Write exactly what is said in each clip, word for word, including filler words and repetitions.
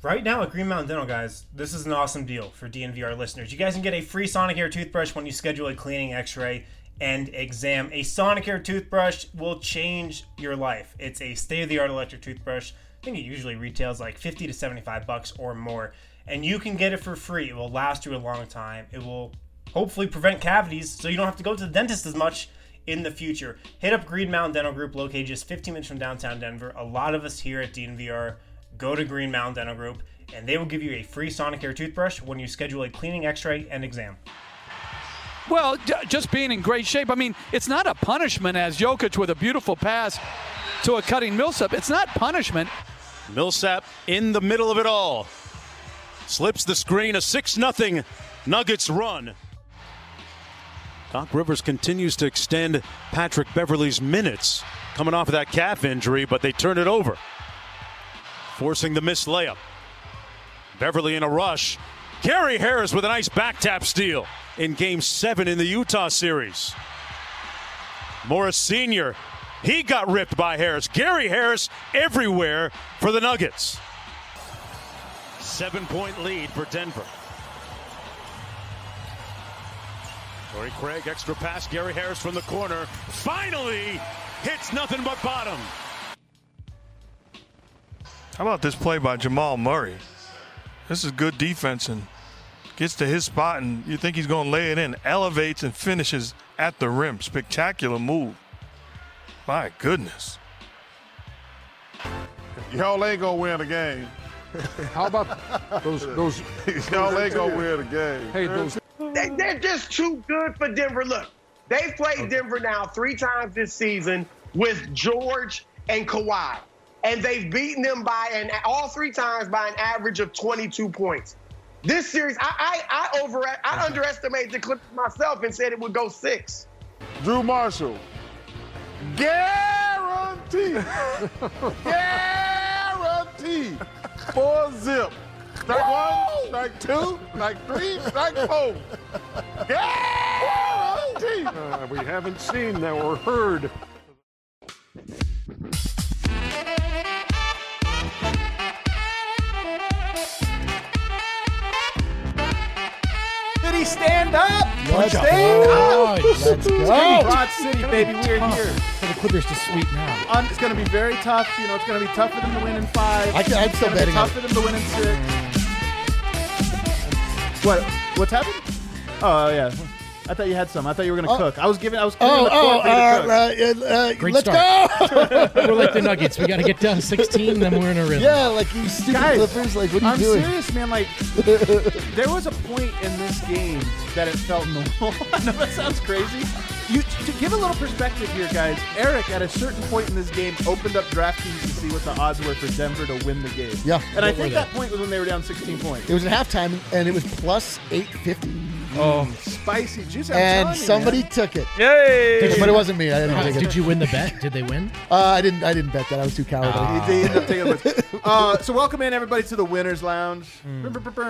Right now at Green Mountain Dental, guys, this is an awesome deal for D N V R listeners. You guys can get a free Sonicare toothbrush when you schedule a cleaning, x-ray, and exam. A Sonicare toothbrush will change your life. It's a state-of-the-art electric toothbrush. I think it usually retails like fifty to seventy-five bucks or more. And you can get it for free. It will last you a long time. It will hopefully prevent cavities so you don't have to go to the dentist as much in the future. Hit up Green Mountain Dental Group, located just fifteen minutes from downtown Denver. A lot of us here at D N V R go to Green Mountain Dental Group, and they will give you a free Sonicare toothbrush when you schedule a cleaning, x-ray, and exam. Well, j- just being in great shape. I mean, it's not a punishment as Jokic with a beautiful pass to a cutting Millsap. It's not punishment. Millsap in the middle of it all. Slips the screen, a six nothing Nuggets run. Doc Rivers continues to extend Patrick Beverley's minutes, coming off of that calf injury, but they turn it over, forcing the missed layup. Beverley in a rush. Gary Harris with a nice back tap steal in Game seven in the Utah series. Morris Senior, he got ripped by Harris. Gary Harris everywhere for the Nuggets. Seven-point lead for Denver. Torrey Craig, extra pass. Gary Harris from the corner. Finally hits nothing but bottom. How about this play by Jamal Murray? This is good defense and gets to his spot, and you think he's going to lay it in. Elevates and finishes at the rim. Spectacular move. My goodness. Y'all ain't going to win the game. How about those? those Y'all ain't going to win the game. Hey, those. They, they're just too good for Denver. Look, they've played Denver now three times this season with George and Kawhi. And they've beaten them by an all three times by an average of twenty-two points. This series, I I I over I underestimated the Clippers myself and said it would go six. Drew Marshall, guarantee, guarantee, four zip. Strike one, strike two, strike three, strike four. Guarantee. Uh, we haven't seen that or heard. City, stand up! Let's stand go. up! Let's go! Broad City, baby, we're here. For the Clippers to sweep now. Um, it's going to be very tough. You know, it's going to be tough for them to win in five. I can, I'm still it's betting tough on for them to win in six. What? What's happened? Oh, yeah. I thought you had some. I thought you were going to Oh. cook. I was giving. I was giving Oh, the oh, court for you to cook. uh, uh, uh, Great let's start. go! We're like the Nuggets. We got to get down sixteen, then we're in a rhythm. Yeah, like you stupid Guys, Clippers. Like, what are you I'm doing? serious, man. Like, there was a point in this game that it felt normal. I know that sounds crazy. You to give a little perspective here, guys. Eric, at a certain point in this game, opened up DraftKings to see what the odds were for Denver to win the game. Yeah. and I What were think they? that point was when they were down sixteen points. It was at halftime, and it was plus eight fifty. Oh, spicy juice! I'm And telling you, somebody man. took it. Yay! But it wasn't me. I didn't How- take it. did you win the bet? Did they win? Uh, I didn't. I didn't bet that. I was too cowardly. Ah. They ended up taking it. Uh, so welcome in everybody to the Winners Lounge. Hmm.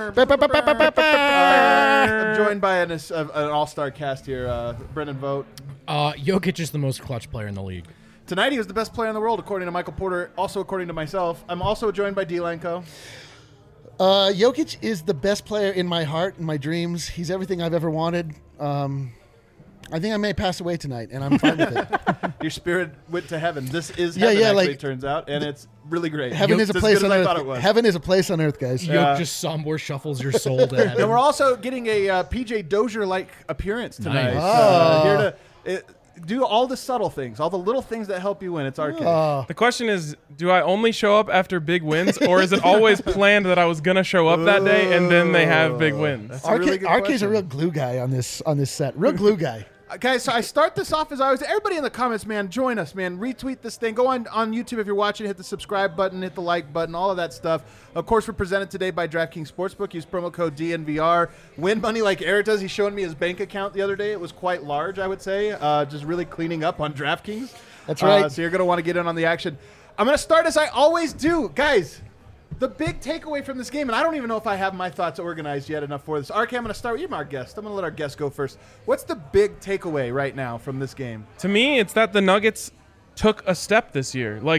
Uh, I'm joined by an, an all-star cast here, uh, Brendan Vogt. Uh, Jokic is the most clutch player in the league. Tonight he was the best player in the world, according to Michael Porter. Also, according to myself, I'm also joined by D. Lenko. Uh, Jokic is the best player in my heart and my dreams. He's everything I've ever wanted. Um, I think I may pass away tonight, and I'm fine with it. Your spirit went to heaven. This is Yeah, heaven, yeah, actually, like- it turns out, and it's really great. Heaven Yo- is a as place good on as I earth. thought it was. Heaven is a place on earth, guys. Yoke Yeah. just somewhere shuffles your soul to heaven. And we're also getting a uh, P J Dozier-like appearance tonight. Nice. Uh, Oh. here to it, do all the subtle things, all the little things that help you win. It's arcade. Oh. The question is, do I only show up after big wins, or is it always planned that I was going to show up that day and then they have big wins? That's a really Arcade, good Arcade's question. a real glue guy on this on this set. Real glue guy. Uh, Guys, so I start this off as always. Everybody in the comments, man, join us, man. Retweet this thing. Go on, on YouTube if you're watching. Hit the subscribe button, hit the like button, all of that stuff. Of course, we're presented today by DraftKings Sportsbook. Use promo code D N V R. Win money like Eric does. He's showing me his bank account the other day. It was quite large, I would say. Uh, just really cleaning up on DraftKings. That's right. Uh, so you're going to want to get in on the action. I'm going to start as I always do. Guys, the big takeaway from this game, and I don't even know if I have my thoughts organized yet enough for this. R K, I'm going to start with you, our guest. I'm going to let our guest go first. What's the big takeaway right now from this game? To me, it's that the Nuggets took a step this year. Like,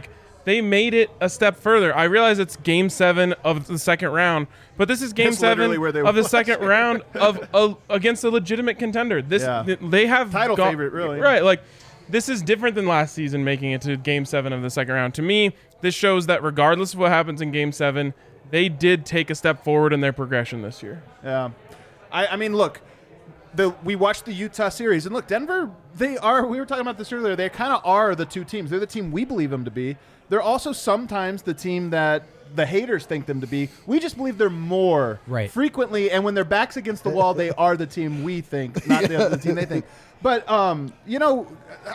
they made it a step further. I realize it's game seven of the second round, but this is game That's seven literally where they of the was. second round of a, against a legitimate contender. This Yeah. they have Title got- favorite, really. Right, like this is different than last season making it to game seven of the second round. To me, this shows that regardless of what happens in game seven, they did take a step forward in their progression this year. Yeah. I, I mean, look, the we watched the Utah series, and look, Denver, they are, we were talking about this earlier, they kind of are the two teams. They're the team we believe them to be. They're also sometimes the team that the haters think them to be. We just believe they're more Right. frequently, and when their back's against the wall, they are the team we think, not the, the team they think. But, um, you know,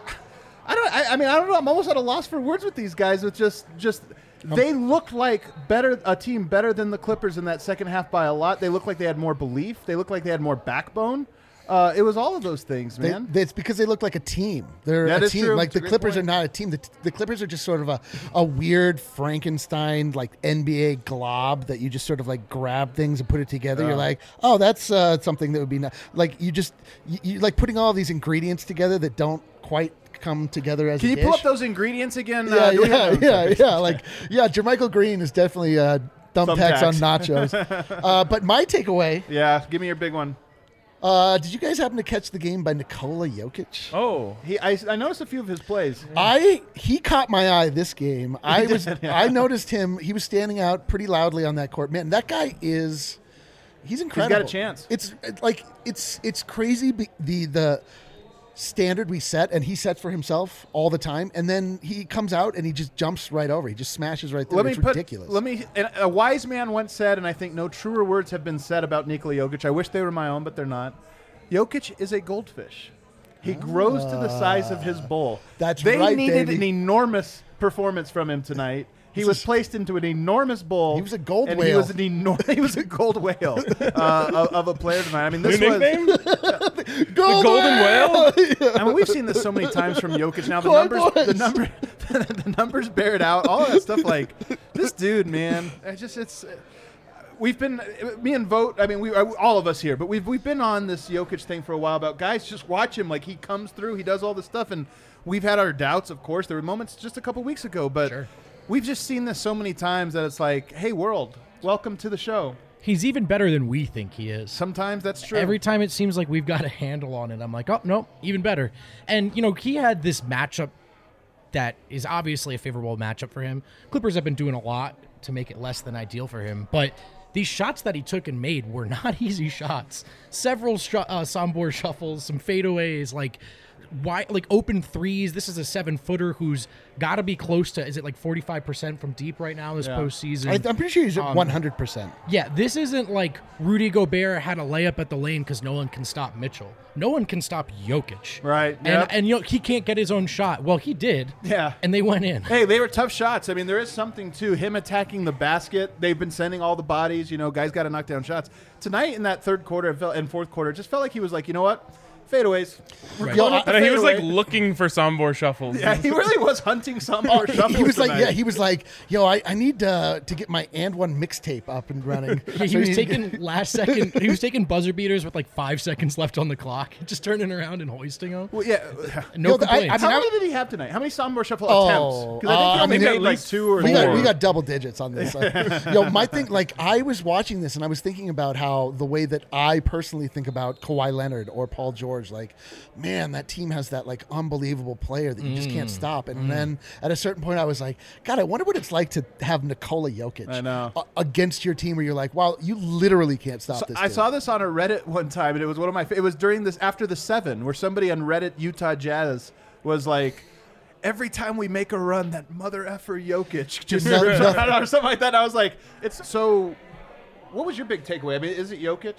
I don't, I, I mean, I don't know. I'm almost at a loss for words with these guys. With just, just, they look like better a team better than the Clippers in that second half by a lot. They look like they had more belief. They look like they had more backbone. Uh, it was all of those things, They, man. they- it's because they look like a team. They're That a is team. true. Like It's a the great Clippers point. are not a team. The, the Clippers are just sort of a, a weird Frankenstein, like N B A glob that you just sort of like grab things and put it together. Yeah. You're like, oh, that's uh, something that would be not, like you just you, you like putting all these ingredients together that don't quite come together as Can a you dish. pull up those ingredients again? Yeah, Uh, do we yeah, have those? yeah, yeah. Like, yeah, Jermichael Green is definitely uh, thumbtacks on nachos. uh, but my takeaway. Yeah, give me your big one. Uh, did you guys happen to catch the game by Nikola Jokic? Oh, he I, I noticed a few of his plays. I he caught my eye this game. I He was did, yeah. I noticed him. He was standing out pretty loudly on that court. Man, that guy is he's incredible. a chance. It's it- like it's it's crazy be- the the standard we set, and he sets for himself all the time, and then he comes out and he just jumps right over. He just smashes right through. Let me it's put, ridiculous. Let me. and A wise man once said, and I think no truer words have been said about Nikola Jokic. I wish they were my own, but they're not. Jokic is a goldfish. He grows to the size of his bowl. That's they right, needed baby. an enormous performance from him tonight. He This was is- placed into an enormous bowl. He was a gold and whale. He was an enor- He was a gold whale uh, of, of a player tonight. I mean, this New was. nickname? Gold the Golden Whale? I mean, we've seen this so many times from Jokic. Now the Boy, numbers, boys. the number, the numbers bear it out. All that stuff. Like this dude, man. I just it's. We've been me and Vote. I mean, we all of us here, but we've we've been on this Jokic thing for a while. About guys, just watch him. Like he comes through, he does all this stuff, and we've had our doubts. Of course, there were moments just a couple weeks ago, but Sure. we've just seen this so many times that it's like, hey, world, welcome to the show. He's even better than we think he is. Sometimes that's true. Every time it seems like we've got a handle on it, I'm like, oh, no, even better. And, you know, he had this matchup that is obviously a favorable matchup for him. Clippers have been doing a lot to make it less than ideal for him, but these shots that he took and made were not easy shots. Several sh- uh, Sombor shuffles, some fadeaways, like why, like open threes. This is a seven-footer who's got to be close to, is it like forty-five percent from deep right now this Yeah. postseason? I, I'm pretty sure he's at Um, one hundred percent. Yeah, this isn't like Rudy Gobert had a layup at the lane because no one can stop Mitchell. No one can stop Jokic. Right, And, yep. and you know, he can't get his own shot. Well, he did. Yeah. And they went in. Hey, they were tough shots. I mean, there is something to him attacking the basket. They've been sending all the bodies. You know, guys got to knock down shots. Tonight in that third quarter it felt, and fourth quarter, it just felt like he was like, you know what? Fadeaways. We're Right. blowing Yo, up the And he was like fadeaway. looking for Sombor shuffles. Yeah, he really was hunting some Oh, more shuffles he was like, tonight. yeah, he was like, yo, I, I need uh, to get my and one mixtape up and running. He So was he- taking last second. He was taking buzzer beaters with like five seconds left on the clock, just turning around and hoisting them. Well, yeah. No Yo, the- I- complaints. I How mean, many did he have tonight? How many Sombor shuffle Oh, attempts? Because I think uh, he I only mean, made at like least two or we four. got we got double digits on this. Yo, my thing, like I was watching this and I was thinking about how the way that I personally think about Kawhi Leonard or Paul George, like, man, that team has that like unbelievable player that you just can't stop. And then at a certain point, I was like, God, I wonder what it's like to have Nikola Jokic I know. a- against your team, where you're like, wow, you literally can't stop So this. I dude. saw this on a Reddit one time, and it was one of my. Fa- it was during this after the seven, where somebody on Reddit Utah Jazz was like, "Every time we make a run, that mother effer Jokic just No, rips no. us out," or something like that." And I was like, "It's so." What was your big takeaway? I mean, is it Jokic?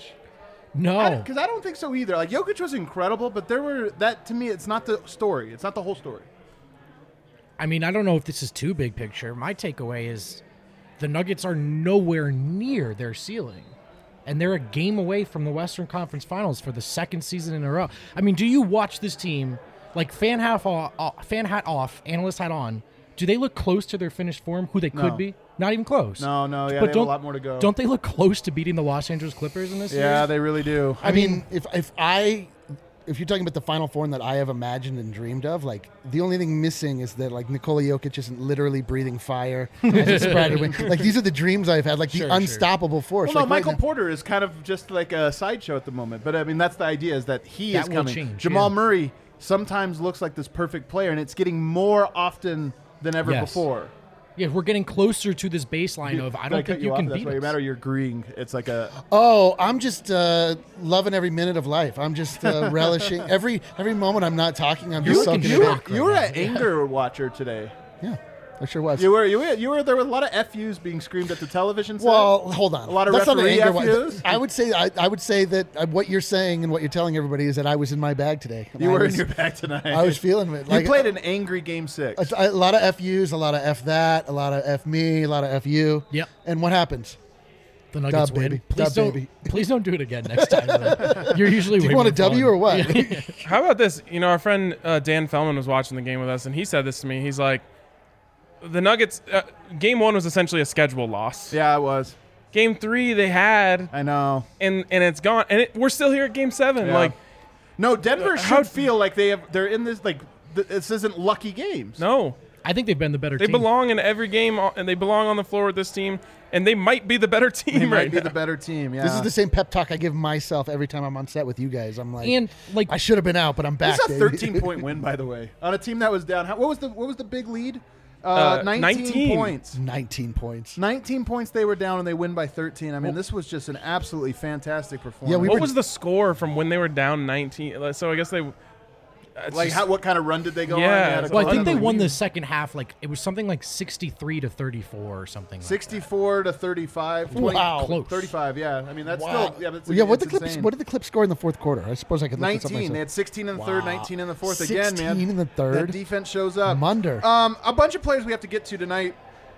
No. Because I, don't think so either. Like Jokic was incredible, but there were that to me, it's not the story. It's not the whole story. I mean, I don't know if this is too big picture. My takeaway is the Nuggets are nowhere near their ceiling. And they're a game away from the Western Conference Finals for the second season in a row. I mean, do you watch this team, like fan hat off, fan hat off, analyst hat on, do they look close to their finished form, who they could No. be? Not even close. No, no, yeah, But they have a don't- lot more to go. Don't they look close to beating the Los Angeles Clippers in this Yeah, series? they really do. I mean, if if I if you're talking about the Final Four that I have imagined and dreamed of, like the only thing missing is that like Nikola Jokic isn't literally breathing fire. as a spreader wing. Like these are the dreams I've had, like Sure, the sure. unstoppable force. Well, no, like, right Michael now- Porter is kind of just like a sideshow at the moment. But I mean, that's the idea: is that he That is will coming. change, Jamal yeah. Murray sometimes looks like this perfect player, and it's getting more often than ever Yes. before. Yeah, we're getting closer to this baseline of I Did don't cut think you off? can That's beat why you us. matter. You're agreeing. It's like a Oh, I'm just uh, loving every minute of life. I'm just uh, relishing every every moment. I'm not talking. I'm just you, soaking you, it in. you were an anger watcher today. Yeah, I sure was. You were. You were. You were. There were a lot of F Us being screamed at the television set. Well, hold on. A lot of That's not an referee anger F one. Us. I would say I, I would say that uh, what you're saying and what you're telling everybody is that I was in my bag today. You I were was- in your bag tonight. I was feeling it. You Like, played an angry game six. a, a lot of F Us, a lot of F that, a lot of F me, a lot of F you. Yep. And what happens? The Nuggets Dub, win. baby. Please Dub, don't. baby. Please don't do it again next time. though. You're usually. Do you way want a more W fun. or what? How about this? You know, our friend uh, Dan Fellman was watching the game with us, and he said this to me. He's like, the Nuggets, uh, game one was essentially a schedule loss. Yeah, it was. Game three, they had. I know. And and it's gone. And it, we're still here at game seven. Yeah. Like, no, Denver should how- feel like they have. They're in this like. Th- this isn't lucky games. no. I think they've been the better They team. belong in every game, uh, and they belong on the floor with this team, and they might be the better team They right might be now. the better team. Yeah. This is the same pep talk I give myself every time I'm on set with you guys. I'm like, And like I should have been out, but I'm back. This is a baby. thirteen point win, by the way, on a team that was down. How, what was the what was the big lead? Uh, Uh, nineteen, nineteen. points. nineteen points. nineteen points they were down, and they win by thirteen. I mean, this was just an absolutely fantastic performance. Yeah, we what were- was the score from when they were down nineteen? So I guess they. it's like just- how, what kind of run did they go Yeah, on? They had a it's Well, I couple- think they don't know, won we- the second half. Like it was something like sixty-three to thirty-four or something. Like that. sixty-four to thirty-five. twenty, Wow. Close. thirty-five. Yeah, I mean that's Wow. still yeah. That's, Well, yeah, what the it's Clips? insane. What did the Clips score in the fourth quarter? I suppose I could look this up nineteen. They myself. had sixteen in the third, Wow. nineteen in the fourth. Again, man. sixteen in the third. That defense shows up. Munder. Um, a bunch of players we have to get to tonight.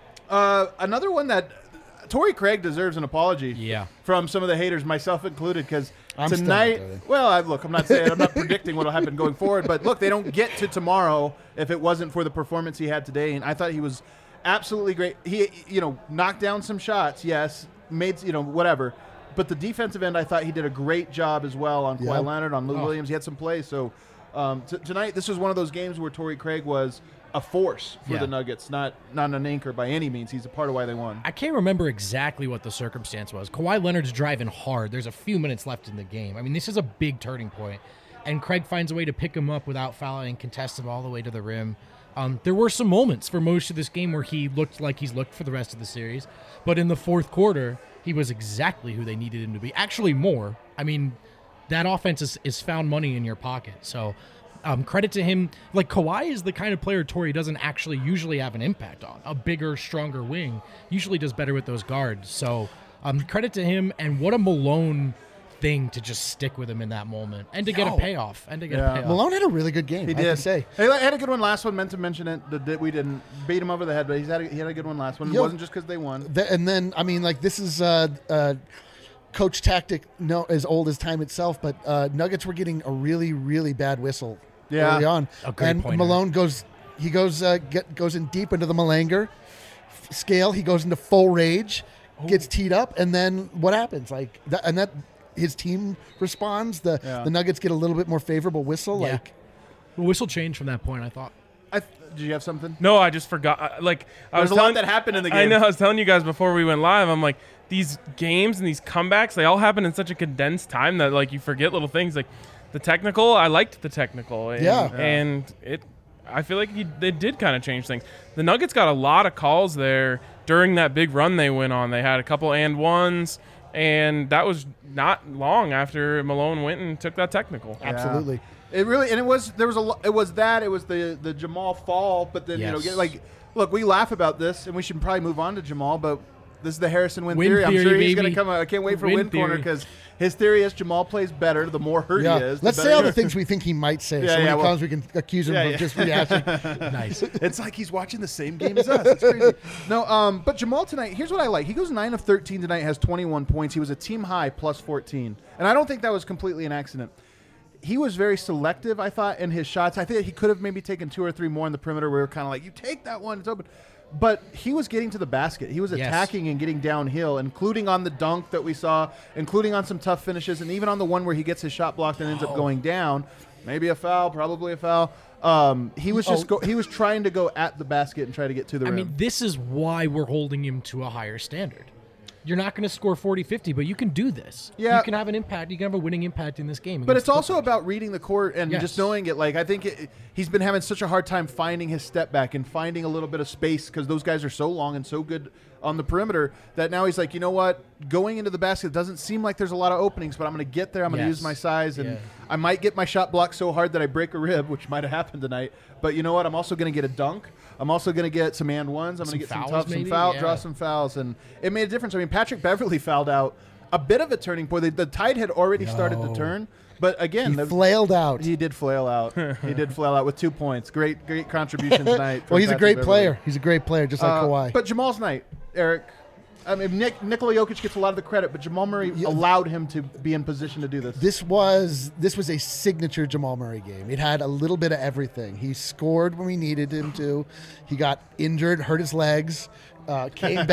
Uh, another one that Torrey Craig deserves an apology. Yeah. From some of the haters, myself included, because I'm still not tonight. doing it. Well, I, look, I'm not saying I'm not predicting what will happen going forward, but look, they don't get to tomorrow if it wasn't for the performance he had today, and I thought he was absolutely great. He, you know, knocked down some shots, yes, made you know whatever, but the defensive end, I thought he did a great job as well on Kawhi Yeah. Leonard, on Lou Oh. Williams. He had some plays, so um, t- tonight this was one of those games where Torrey Craig was a force for Yeah. the Nuggets, not not an anchor by any means. He's a part of why they won. I can't remember exactly what the circumstance was. Kawhi Leonard's driving hard. There's a few minutes left in the game. I mean, this is a big turning point, and Craig finds a way to pick him up without fouling, contest him all the way to the rim. Um, there were some moments for most of this game where he looked like he's looked for the rest of the series, but in the fourth quarter, he was exactly who they needed him to be. Actually, more. I mean, that offense is, is found money in your pocket. So um, credit to him. Like, Kawhi is the kind of player Torrey doesn't actually usually have an impact on. A bigger, stronger wing usually does better with those guards. So um, credit to him, and what a Malone thing to just stick with him in that moment and to get Yo. a payoff. And to get Yeah. a payoff. Malone had a really good game. He I did. have to say. He had a good one last one. Meant to mention it. that- that we didn't beat him over the head, but he's had a, he had a good one last one. It Yo. wasn't just because they won. Th- and then, I mean, like this is uh, uh, coach tactic, no, as old as time itself. But uh, Nuggets were getting a really, really bad whistle Yeah. early on, A great and pointer. Malone goes, he goes, uh, get, goes in deep into the Malanger f- scale. He goes into full rage, gets teed up, and then what happens? Like, that, and that his team responds. The Yeah. the Nuggets get a little bit more favorable whistle. Yeah. Like, The whistle changed from that point, I thought. I th- did you have something? No, I just forgot. I- Like I There's was a lot telling, that happened in the I game. know. I was telling you guys before we went live. I'm like, these games and these comebacks, they all happen in such a condensed time that like you forget little things. Like the technical, I liked the technical. And, Yeah. and it, I feel like he, they did kind of change things. The Nuggets got a lot of calls there during that big run they went on. They had a couple and ones, and that was not long after Malone went and took that technical. absolutely. It really and it was there was a lo- it was that it was the the Jamal fall, but then you know Yes. get, like look, we laugh about this and we should probably move on to Jamal, but this is the Harrison Win, Win theory. I'm theory, sure he's baby. going to come. I can't wait for Win Win Corner theory. because his theory is Jamal plays better the more hurt Yeah. he is. the Let's say better- all the things we think he might say. Yeah, so when yeah, he well- comes, we can accuse him Yeah, of yeah. just reacting. Nice. It's like he's watching the same game as us. It's crazy. No, um, but Jamal tonight, here's what I like. He goes nine of thirteen tonight, has twenty-one points. He was a team high plus fourteen. And I don't think that was completely an accident. He was very selective, I thought, in his shots. I think he could have maybe taken two or three more on the perimeter where we were kind of like, you take that one, it's open. but he was getting to the basket. He was Yes. attacking and getting downhill, including on the dunk that we saw, including on some tough finishes, and even on the one where he gets his shot blocked and ends Oh. up going down. Maybe a foul, probably a foul. Um, he was just Oh. go, he was trying to go at the basket and try to get to the I rim. mean, this is why we're holding him to a higher standard. You're not going to score forty, fifty, but you can do this. Yeah. You can have an impact. You can have a winning impact in this game. But against it's the also Clippers. about reading the court and Yes. just knowing it. Like, I think it, he's been having such a hard time finding his step back and finding a little bit of space because those guys are so long and so good on the perimeter that now he's like, you know what? Going into the basket doesn't seem like there's a lot of openings, but I'm going to get there. I'm going to Yes. use my size, and Yeah. I might get my shot blocked so hard that I break a rib, which might have happened tonight. But you know what? I'm also going to get a dunk. I'm also going to get some and ones. I'm going Some to get some fouls, tough, some maybe? foul, Yeah. draw some fouls, and it made a difference. I mean, Patrick Beverly fouled out. A bit of a turning point. The, the tide had already started to No. turn, but again, He the, flailed out. He did flail out. he did flail out with two points. Great, great contribution tonight. Well, from he's a Patrick great Beverley. player. He's a great player, just like Uh, Kawhi. But Jamal's night, Eric. I mean, Nick, Nikola Jokic gets a lot of the credit, but Jamal Murray allowed him to be in position to do this. This was this was a signature Jamal Murray game. It had a little bit of everything. He scored when we needed him to. He got injured, hurt his legs, uh, came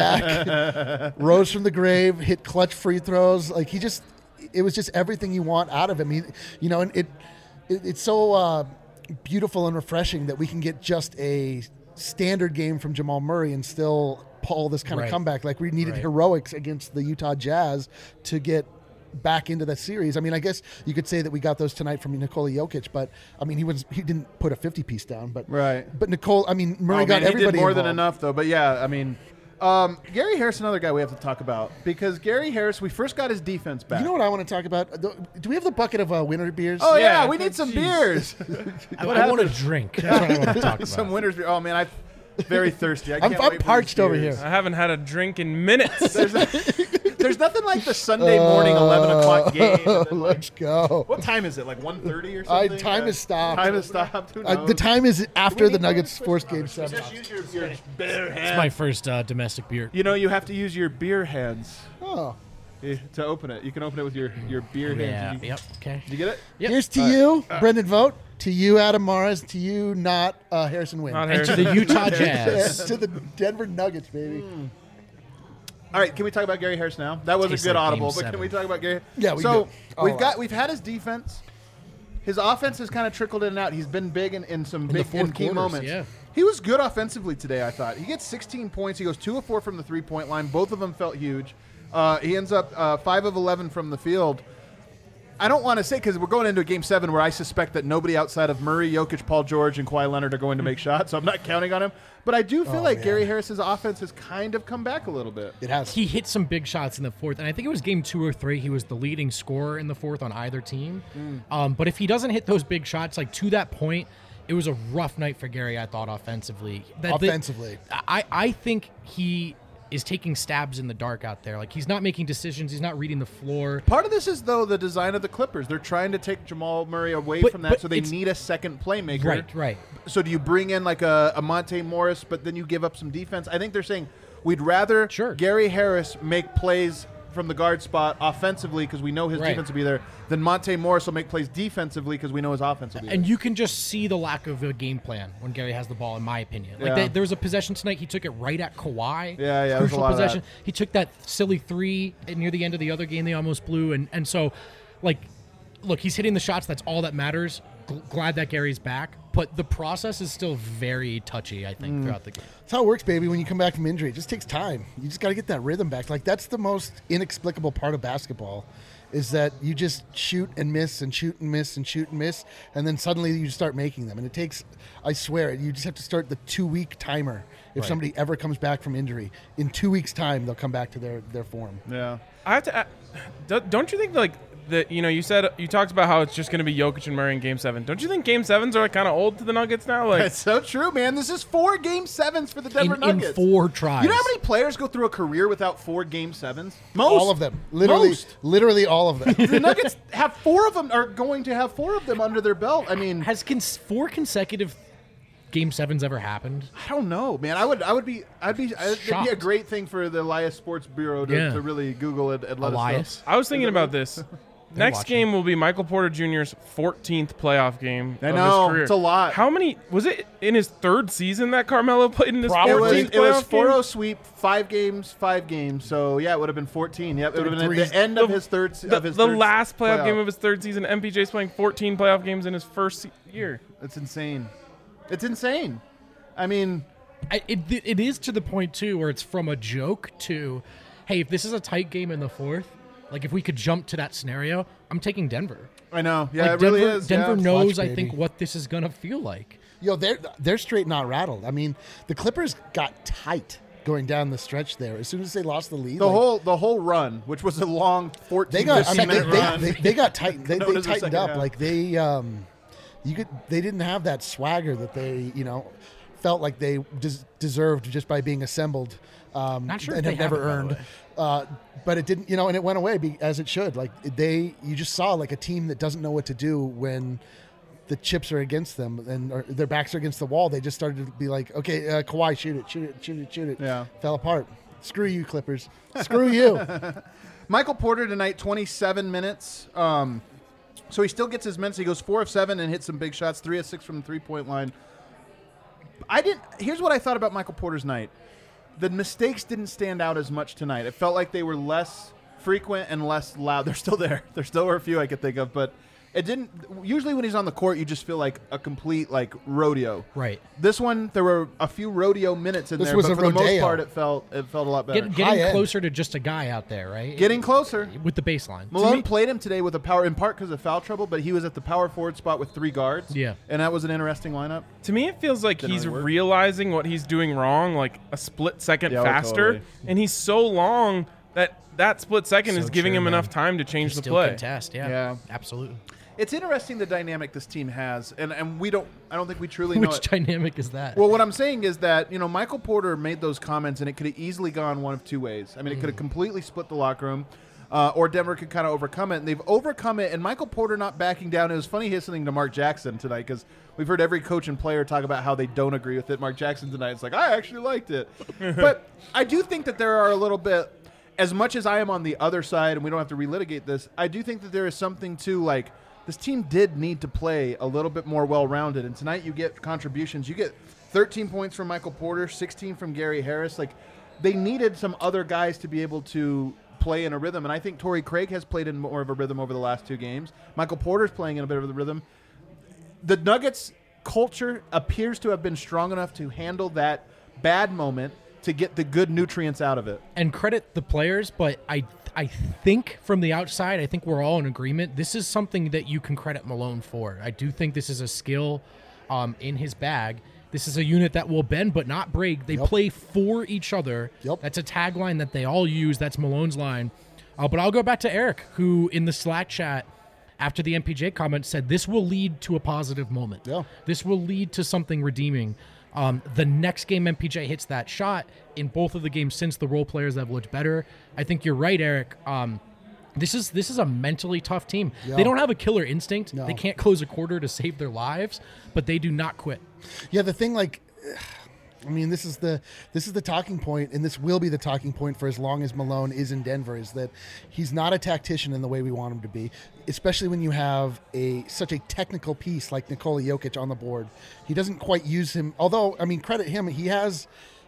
back, rose from the grave, hit clutch free throws. Like he just, it was just everything you want out of him. He, you know, and it, it it's so uh, beautiful and refreshing that we can get just a standard game from Jamal Murray and still pull this kind Right. of comeback. Like we needed Right. heroics against the Utah Jazz to get back into the series. I mean, I guess you could say that we got those tonight from Nikola Jokic, but I mean, he was he didn't put a fifty piece down, but Right. But Nicole, I mean, Murray Oh, got man, he everybody did more than involved. enough, though. But yeah, I mean, um, Gary Harris, another guy we have to talk about because Gary Harris, we first got his defense back. You know what I want to talk about? Do we have the bucket of uh, winter beers? Oh yeah, Yeah, we need some jeez. beers. I, I want to drink. That's what I want to talk about. Some winners beer. Oh man, I very thirsty. I I'm- can't I'm wait for parched these over beers. here. I haven't had a drink in minutes. There's, there's nothing like the Sunday morning eleven o'clock game. and then, like, Let's go. what time is it? Like one thirty or I, something? time Uh, has stopped. Time has stopped. Who Uh, knows? the time is after need the more Nuggets switch forced game numbers. seven. Just use your, your bare It's hands. my first uh, domestic beer. You know, you have to use your beer hands Oh. eh, to open it. You can open it with your, your beer Yeah. hands. Did you, Yep. Okay. did you get it? Yep. Here's to you, Brendan Vogt. To you, Adam Morris. To you, not uh, Harrison Wynn. Not And to Harrison. the Utah Yes, Jazz. to the Denver Nuggets, baby. All right, can we talk about Gary Harris now? That was Tastes a good like audible, game but can seven. we talk about Gary? Yeah, we so do. All we've out. got we've had his defense. His offense has kind of trickled in and out. He's been big in, in some the big fourth in key quarters, moments. yeah. He was good offensively today, I thought. He gets sixteen points. He goes two of four from the three-point line. Both of them felt huge. Uh, he ends up uh, five of eleven from the field. I don't want to say because we're going into a game seven where I suspect that nobody outside of Murray, Jokic, Paul George, and Kawhi Leonard are going to make shots, so I'm not counting on him. But I do feel Oh, like man. Gary Harris's offense has kind of come back a little bit. It has. He hit some big shots in the fourth, and I think it was game two or three. He was the leading scorer in the fourth on either team. Um, but if he doesn't hit those big shots, like to that point, it was a rough night for Gary, I thought, offensively. That- that- Offensively. I, I think he is taking stabs in the dark out there. Like, he's not making decisions. He's not reading the floor. Part of this is, though, the design of the Clippers. They're trying to take Jamal Murray away But- from that, but so they it's- need a second playmaker. Right, right. So do you bring in like a, a Monte Morris, but then you give up some defense? I think they're saying we'd rather Sure. Gary Harris make plays from the guard spot offensively because we know his Right. defense will be there, than Monte Morris will make plays defensively because we know his offense will be And there. you can just see the lack of a game plan when Gary has the ball, in my opinion. Like Yeah. they, there was a possession tonight, he took it right at Kawhi. Yeah, yeah, there was a Crucial lot of that. possession. He took that silly three near the end of the other game they almost blew, and and so, like, look, he's hitting the shots. That's all that matters. G- glad that Gary's back, but the process is still very touchy, I Mm. think, throughout the game. That's how it works, baby. When you come back from injury, it just takes time. You just got to get that rhythm back. Like that's the most inexplicable part of basketball, is that you just shoot and miss and shoot and miss and shoot and miss, and then suddenly you start making them. And it takes, I swear, you just have to start the two-week timer. If Right. somebody ever comes back from injury, in two weeks' time, they'll come back to their their form. Yeah. I have to. a- do- Don't you think like that? You know, you said you talked about how it's just going to be Jokic and Murray in Game Seven. Don't you think Game Sevens are like kind of old to the Nuggets now? Like, That's so true, man. This is four game sevens for the Denver In, in Nuggets. four tries. You know how many players go through a career without four game sevens? Most. All of them, literally, Most. literally all of them. The Nuggets have four of them, are going to have four of them under their belt. I mean, Has cons- four consecutive Game Sevens ever happened? I don't know, man. I would, I would be, I'd be, it'd be a Shocked. great thing for the Elias Sports Bureau to, Yeah. to really Google it and let Elias? us I was thinking about this. Next watching. game will be Michael Porter Junior's fourteenth playoff game I of know, his career. it's a lot. How many was it in his third season that Carmelo played in his It was, fourteenth it was playoff four oh game? sweep, five games, five games. So yeah, it would have been fourteen. Yep, it would have been Three- at the end of his third. The, of his the third last playoff, playoff game of his third season, M P J's playing fourteen playoff games in his first se- year. It's insane. It's insane. I mean, I, it it is to the point too where it's from a joke to, hey, if this is a tight game in the fourth, like if we could jump to that scenario, I'm taking Denver. I know. Yeah, Like it really Denver, is. Denver yeah. knows, Watch, I think, baby. what this is gonna feel like. Yo, they're they're straight not rattled. I mean, the Clippers got tight going down the stretch there. As soon as they lost the lead, The like, whole the whole run, which was a long fourteen, they got. I mean, they, minute they, run. they, they got tight. They, Known they as the tightened second up. half. Like they, um, you could. They didn't have that swagger that they, you know, felt like they des- deserved just by being assembled. Um, Not sure if and they have never have it, by the earned. way. Uh, but it didn't, you know, and it went away be, as it should. Like they, you just saw like a team that doesn't know what to do when the chips are against them and or their backs are against the wall. They just started to be like, okay, uh, Kawhi, shoot it, shoot it, shoot it, shoot it. Yeah. Fell apart. Screw you, Clippers. Screw you. Michael Porter tonight, twenty-seven minutes. Um, so he still gets his minutes. He goes four of seven and hits some big shots, three of six from the three-point line. I didn't. Here's what I thought about Michael Porter's night. The mistakes didn't stand out as much tonight. It felt like they were less frequent and less loud. They're still there. There still were a few I could think of, but it didn't. Usually when he's on the court, you just feel like a complete like rodeo. Right. This one, there were a few rodeo minutes in This there, was but a for the most rodeo. part, it felt it felt a lot better. Get, getting High-end. closer to just a guy out there, right? Getting closer. with the baseline. Malone played him today with a power, in part because of foul trouble, but he was at the power forward spot with three guards. Yeah. And that was an interesting lineup. To me, it feels like Didn't he's really work. realizing what he's doing wrong, like a split second Yeah, oh, faster, totally. and he's so long that that split second So is giving true, him man. enough time to change the Still play. contest, yeah. Yeah. Absolutely. It's interesting the dynamic this team has, and, and we don't, I don't think we truly know Which it. dynamic is that? Well, what I'm saying is that, you know, Michael Porter made those comments, and it could have easily gone one of two ways. I mean, it could have completely split the locker room, uh, or Denver could kind of overcome it, and they've overcome it, and Michael Porter not backing down. It was funny listening to Mark Jackson tonight, because we've heard every coach and player talk about how they don't agree with it. Mark Jackson tonight is like, I actually liked it. But I do think that there are a little bit, as much as I am on the other side, and we don't have to relitigate this, I do think that there is something to, like, this team did need to play a little bit more well-rounded, and tonight you get contributions. You get thirteen points from Michael Porter, sixteen from Gary Harris. Like, they needed some other guys to be able to play in a rhythm, and I think Torrey Craig has played in more of a rhythm over the last two games. Michael Porter's playing in a bit of a rhythm. The Nuggets culture appears to have been strong enough to handle that bad moment to get the good nutrients out of it. And credit the players, but I I think from the outside, I think we're all in agreement. This is something that you can credit Malone for. I do think this is a skill um, in his bag. This is a unit that will bend but not break. They Yep. play for each other. Yep. That's a tagline that they all use. That's Malone's line. Uh, but I'll go back to Eric, who in the Slack chat after the M P J comment said this will lead to a positive moment. Yeah. This will lead to something redeeming. Um, the next game M P J hits that shot. In both of the games since, the role players have looked better. I think you're right, Eric. Um, this is this is a mentally tough team. Yeah. They don't have a killer instinct. No. They can't close a quarter to save their lives, but they do not quit. Yeah, the thing, like, I mean, this is the this is the talking point, and this will be the talking point for as long as Malone is in Denver. Is that he's not a tactician in the way we want him to be, especially when you have a such a technical piece like Nikola Jokic on the board. He doesn't quite use him. Although, I mean, credit him, he has,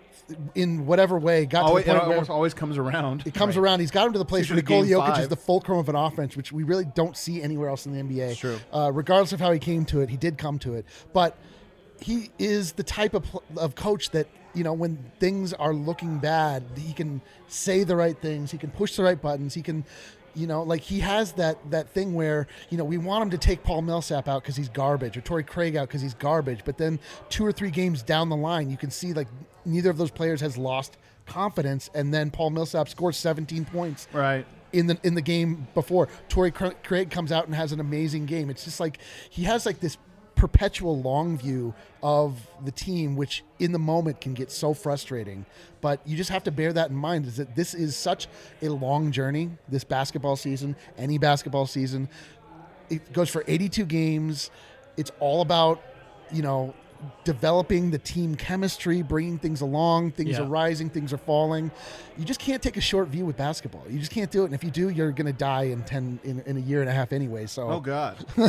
in whatever way, got Always, to it the point where almost always comes around. it comes around. He's got him to the place It's where usually Nikola game Jokic is five. the fulcrum of an offense, which we really don't see anywhere else in the N B A. It's true. Uh, regardless of how he came to it, he did come to it. But he is the type of pl- of coach that, you know, when things are looking bad, he can say the right things. He can push the right buttons. He can, you know, like he has that that thing where, you know, we want him to take Paul Millsap out because he's garbage, or Torrey Craig out because he's garbage. But then two or three games down the line, you can see like neither of those players has lost confidence, and then Paul Millsap scores seventeen points. Right. In the in the game before, Torrey Cra- Craig comes out and has an amazing game. It's just like he has like this perpetual long view of the team, which in the moment can get so frustrating. But you just have to bear that in mind, is that this is such a long journey, this basketball season, any basketball season. It goes for eighty-two games. It's all about, you know, developing the team chemistry, bringing things along. Things Yeah. are rising, things are falling. You just can't take a short view with basketball. You just can't do it. And if you do, you're going to die in ten in, in a year and a half anyway. So Oh God. you,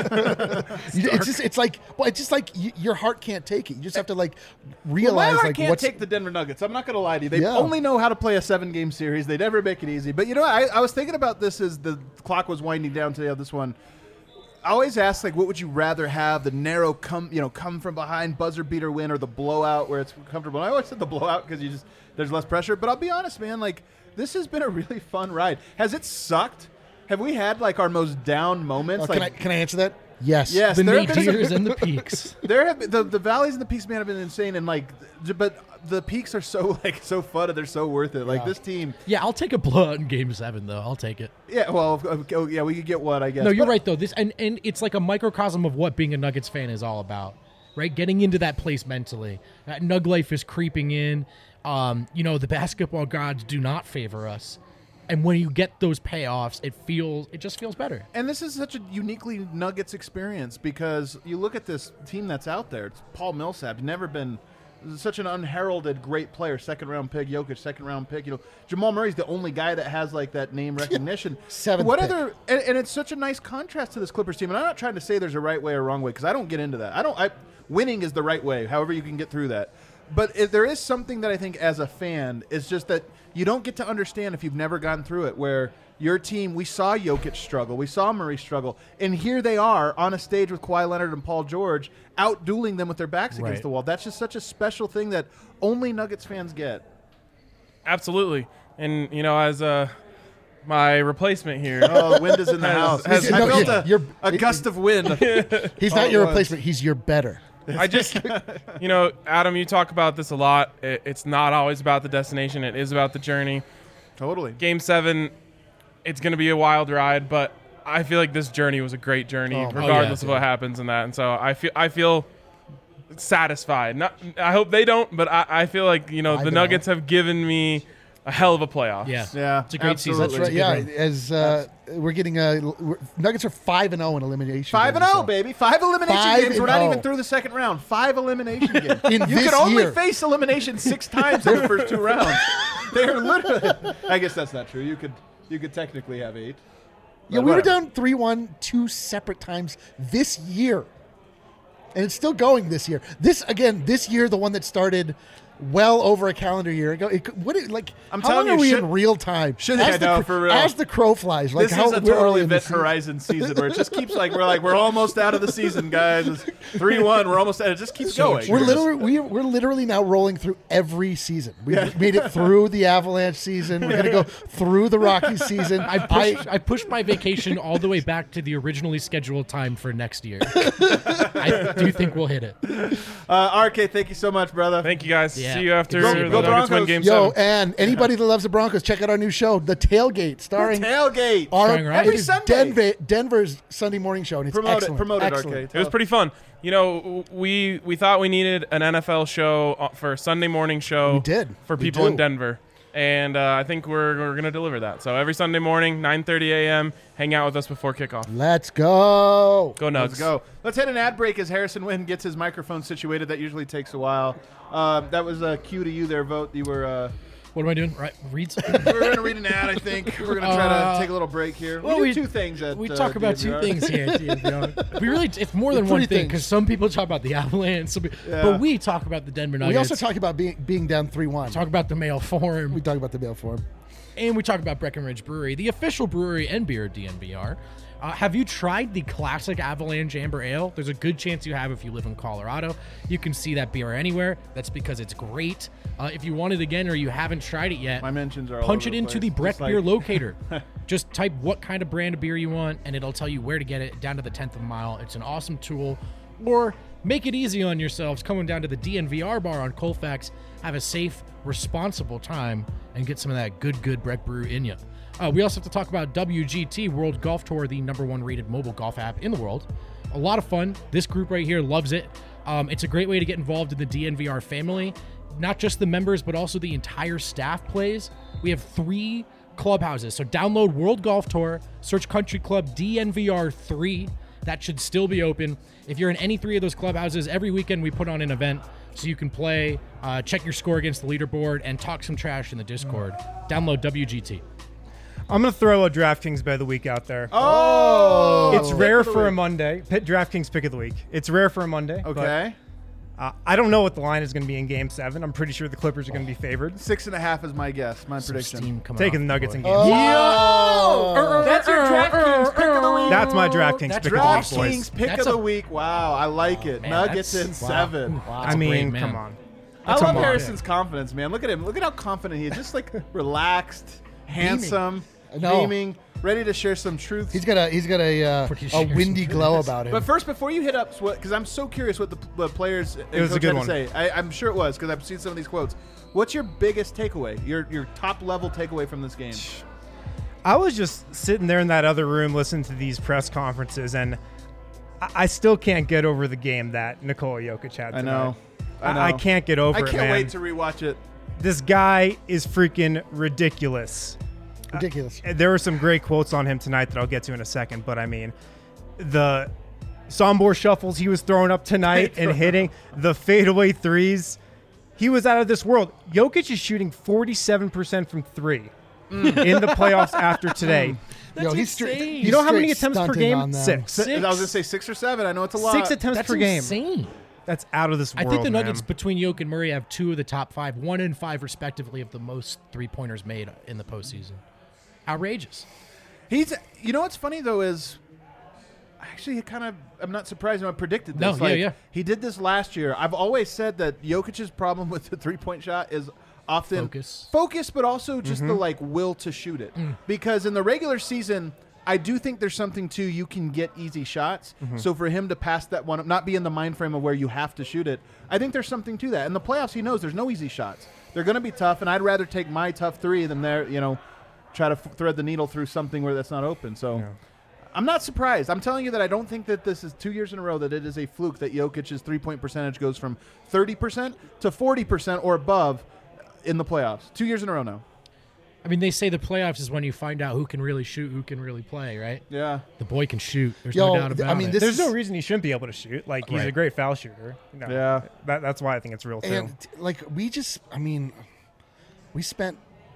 it's just it's like well, it's just like you, your heart can't take it. You just have to like Well, realize my heart like can't what's take the Denver Nuggets. I'm not going to lie to you. They Yeah. only know how to play a seven-game series. They never make it easy. But you know, I, I was thinking about this as the clock was winding down today on this one. I always ask, like, what would you rather have? The narrow come, you know, come from behind buzzer beater win, or the blowout where it's comfortable? And I always said the blowout because you just there's less pressure. But I'll be honest, man. Like, this has been a really fun ride. Has it sucked? Have we had like our most down moments? Oh, can like, I can I answer that? Yes. Yes, The there have been some- nadirs and the peaks. There have been, the the valleys and the peaks, man, have been insane, and like, j- but the peaks are so like so fun and they're so worth it. Like Yeah. this team, Yeah, I'll take a blowout in Game Seven, though. I'll take it. yeah. Well, okay, oh, yeah, we could get one, I guess. No, you're But- right though. This and, and it's like a microcosm of what being a Nuggets fan is all about, right? Getting into that place mentally. That Nug life is creeping in. Um, you know, the basketball gods do not favor us, and when you get those payoffs, it feels it just feels better. And this is such a uniquely Nuggets experience because you look at this team that's out there. It's Paul Millsap, never been such an unheralded great player. Second round pick, Jokic, second round pick. You know, Jamal Murray's the only guy that has like that name recognition. Seventh What pick. other? And, and it's such a nice contrast to this Clippers team. And I'm not trying to say there's a right way or wrong way because I don't get into that. I don't. I winning is the right way. However, you can get through that. But if there is something that I think as a fan is just that you don't get to understand if you've never gone through it, where your team, we saw Jokic struggle, we saw Murray struggle, and here they are on a stage with Kawhi Leonard and Paul George out-dueling them with their backs against Right. the wall. That's just such a special thing that only Nuggets fans get. Absolutely. And, you know, as uh, my replacement here. Oh, the wind is in the house. has- I No, felt yeah, a, you're- a gust of wind. He's all not at your once. replacement. He's your better. I just, you know, Adam, you talk about this a lot. It, it's not always about the destination. It is about the journey. Totally. Game seven, it's going to be a wild ride, but I feel like this journey was a great journey, Oh, regardless yeah, of what happens in that. And so I feel, I feel satisfied. Not, I hope they don't, but I, I feel like, you know, I the don't. Nuggets have given me a hell of a playoff. Yeah, Yeah, it's a great season. absolutely. That's right. It's a good Yeah, run. as uh, we're getting uh, we're, Nuggets are five and zero in elimination. Five and games, zero, so- baby. Five elimination Five games. We're and not oh. even through the second round. Five elimination games. In you this can only year. face elimination six times in the first two rounds. They're literally. I guess that's not true. You could you could technically have eight. Yeah, But we were whatever. down three one two separate times this year, and it's still going this year. This again, this year, the one that started well over a calendar year ago. It, could- what it, like? I'm how telling long you, are we should- in real time? should- as I the, know, cr- for real. As the crow flies, like This how is a we're total early in the Event season. Horizon season where it just keeps like we're like we're almost out of the season, guys. It's three one. We're almost. It just keeps going. We're literally we, we're literally now rolling through every season. We Yeah. made it through the Avalanche season. We're gonna go through the Rockies season. I pushed, I, pushed my vacation all the way back to the originally scheduled time for next year. I do think we'll hit it. Uh, R K, thank you so much, brother. Thank you, guys. Yeah. See you after Go- the go Nuggets win Broncos. Game Yo, seven. and anybody that loves the Broncos, check out our new show, The Tailgate, The starring tailgate. our Starring Ryan. Every it is Sunday. Denver, Denver's Sunday morning show, and it's Promote it. excellent. Promote it, excellent. R K. It was pretty fun. You know, we we thought we needed an N F L show uh, for a Sunday morning show. We did. for We people do. in Denver, and uh, I think we're we're gonna deliver that. So every Sunday morning, nine thirty a.m., hang out with us before kickoff. Let's go. Go Nugs. Let's go. Let's hit an ad break as Harrison Wynn gets his microphone situated. That usually takes a while. Uh, that was a cue to you there, Vote. You were. Uh, What am I doing? Right, read something. we're going to read an ad, I think. We're going to try Uh, to take a little break here. well, we do we- two things at We uh, talk about two D N V R. things here. at D N V R. We really, it's more than Three one thing things. because some people talk about the Avalanche, some, pe- Yeah. but we talk about the Denver Nuggets. We also talk about being being down three one. talk about the Mail Forum, We talk about the mail form. and we talk about Breckenridge Brewery, the official brewery and beer of D N V R. Uh, have you tried the classic Avalanche Amber Ale? There's a good chance you have if you live in Colorado. You can see that beer anywhere. That's because it's great. Uh, if you want it again or you haven't tried it yet, My mentions are all punch over it the into place. the Breck Just like- Beer locator. Just type what kind of brand of beer you want, and it'll tell you where to get it down to the tenth of a mile. It's an awesome tool. Or make it easy on yourselves, coming down to the D N V R bar on Colfax. Have a safe, responsible time, and get some of that good, good Breck Brew in you. Uh, we also have to talk about W G T, World Golf Tour, the number one rated mobile golf app in the world. A lot of fun. This group right here loves it. Um, it's a great way to get involved in the D N V R family. Not just the members, but also the entire staff plays. We have three clubhouses. So download World Golf Tour, search Country Club D N V R three, that should still be open. If you're in any three of those clubhouses, every weekend we put on an event so you can play, uh, check your score against the leaderboard, and talk some trash in the Discord. Download W G T. I'm going to throw a DraftKings bet of the week out there. Oh! It's rare for a Monday. Pitt DraftKings pick of the week. It's rare for a Monday. Okay. But, uh, I don't know what the line is going to be in Game seven. I'm pretty sure the Clippers are going to be favored. Six and a half is my guess, my Some prediction. steam coming Taking off the Nuggets in board. Game Oh! seven. That's your DraftKings pick of the week. That's my DraftKings That's pick of the week, DraftKings boys. pick That's of the a- week. Wow, I like it. Man, Nuggets that's- in wow. seven. Wow, I that's a brave mean, man. come on. I Come love on. Harrison's confidence, man. Look at him. Look at how confident he is. Just like relaxed, handsome, No. beaming, ready to share some truths. He's got a he's got a uh, Pretty a sure windy some glow goodness. about him. But first, before you hit up, because I'm so curious what the, the players and It was a coach good had one. to say. I, I'm sure it was because I've seen some of these quotes. What's your biggest takeaway? Your your top level takeaway from this game? I was just sitting there in that other room listening to these press conferences, and I, I still can't get over the game that Nikola Jokic had tonight. I know. I know. I, I can't get over I it, can't man. wait to rewatch it. This guy is freaking ridiculous. Ridiculous. There were some great quotes on him tonight that I'll get to in a second, but I mean, the Sombor shuffles he was throwing up tonight and hitting, the fadeaway threes, he was out of this world. Jokic is shooting forty-seven percent from three in the playoffs after today. That's Yo, he's insane. straight- You know how many straight attempts per stunting game? on them. Six. I was gonna say six or seven. I know it's a lot. Six attempts That's per game. insane. That's out of this I world. think the Nuggets man. between Jokic and Murray have two of the top five, one and five respectively, of the most three pointers made in the postseason. Outrageous. He's. You know what's funny though is, actually, kind of. I'm not surprised. I predicted this. No, yeah, Like, yeah. He did this last year. I've always said that Jokic's problem with the three point shot is often Focus. focus, but also just Mm-hmm. the like will to shoot it. Mm. Because in the regular season, I do think there's something to you can get easy shots. Mm-hmm. So for him to pass that one, up, not be in the mind frame of where you have to shoot it, I think there's something to that. In the playoffs, he knows there's no easy shots. They're going to be tough, and I'd rather take my tough three than their, you know, try to f- thread the needle through something where that's not open. So. Yeah. I'm not surprised. I'm telling you that I don't think that this is two years in a row that it is a fluke that Jokic's three-point percentage goes from thirty percent to forty percent or above in the playoffs. Two years in a row now. I mean, they say the playoffs is when you find out who can really shoot, who can really play, right? Yeah. The boy can shoot. There's Yo, no doubt th- about I mean, it. this There's is- no reason he shouldn't be able to shoot. Like, he's a Right. great foul shooter. You know, Yeah. That, that's why I think it's real, too. And like we just, I mean, we spent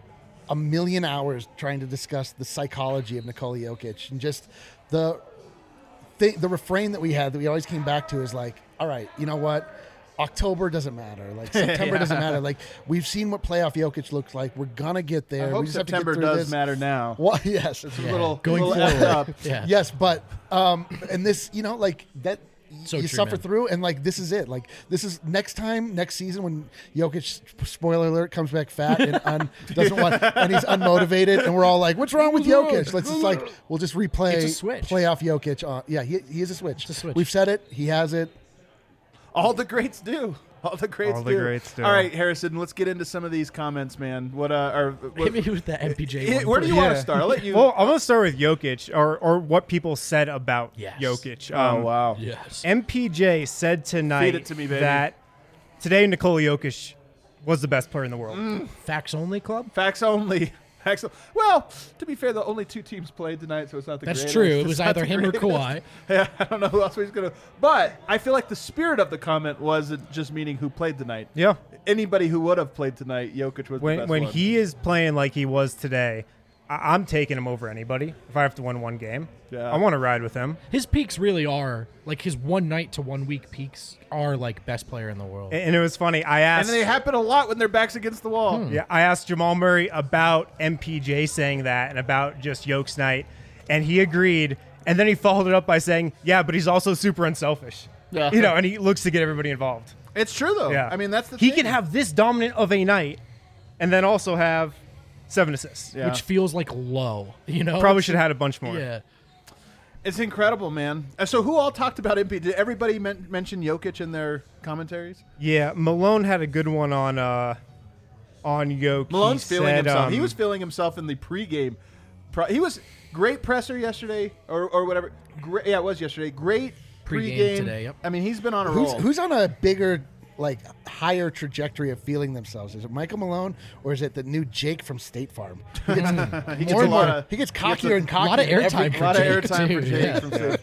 a million hours trying to discuss the psychology of Nikola Jokic and just the thing, the refrain that we had that we always came back to is like, all right, you know what? October doesn't matter. Like September Yeah. doesn't matter. Like we've seen what playoff Jokic looks like. We're gonna get there. I hope we just September have to get through does this. matter now. Well, yes, It's a Yeah. little, Going little forward. effed up. Yeah. yes, but um, and this, you know, like that. So you true, suffer man. through, and like this is it. Like this is next time, next season when Jokic, spoiler alert, comes back fat and un, doesn't want, and he's unmotivated, and we're all like, "What's wrong with Jokic?" Let's just like we'll just replay It's a switch. playoff Jokic. On, yeah, he, he is a switch. It's a switch. We've said it. He has it. All the greats do. All the greats All the do. greats do. All right, Harrison, let's get into some of these comments, man. What uh, or what, Hit me with that M P J Hit- one where do you first. want to start? I'll let you. Well, I'm going to start with Jokic, or, or what people said about Yes. Jokic. oh Um, wow. Yes. M P J said tonight it to me, baby. that today Nikola Jokic was the best player in the world. Mm. Facts only club? Facts only. Facts. o- Well, to be fair, the only two teams played tonight, so it's not the That's greatest. true. It It's was not either the him or greatest. Kawhi. Yeah, I don't know who else he's gonna. But I feel like the spirit of the comment wasn't just meaning who played tonight. Yeah. Anybody who would have played tonight, Jokic was the When best when one. he is playing like he was today, I- I'm taking him over anybody if I have to win one game. Yeah. I want to ride with him. His peaks really are, like his one night to one week peaks are like best player in the world. And, and it was funny. I and asked. they happen a lot when their backs against the wall. Hmm. Yeah, I asked Jamal Murray about M P J saying that and about just Jokic night, and he agreed. And then he followed it up by saying, "Yeah, but he's also super unselfish." Yeah. You know, and he looks to get everybody involved. It's true though. Yeah, I mean that's the he thing. can have this dominant of a night, and then also have seven assists. Yeah. Which feels like low, you know? Probably should have had a bunch more. Yeah. It's incredible, man. Uh, So who all talked about M P? Did everybody men- mention Jokic in their commentaries? Yeah, Malone had a good one on uh, on Jokic. Malone's He feeling said, himself. um, he was feeling himself in the pregame. Pro- he was great presser yesterday, or, or whatever. Great, yeah, it was yesterday. Great Pregame pregame today, yep. I mean, he's been on a Who's roll. who's on a bigger, like higher trajectory of feeling themselves? Is it Michael Malone or is it the new Jake from State Farm? He gets, He gets more a and lot more- of- he gets he gets cockier a and cockier. lot of every- airtime a lot of Jake, airtime for too, Jake yeah. from State.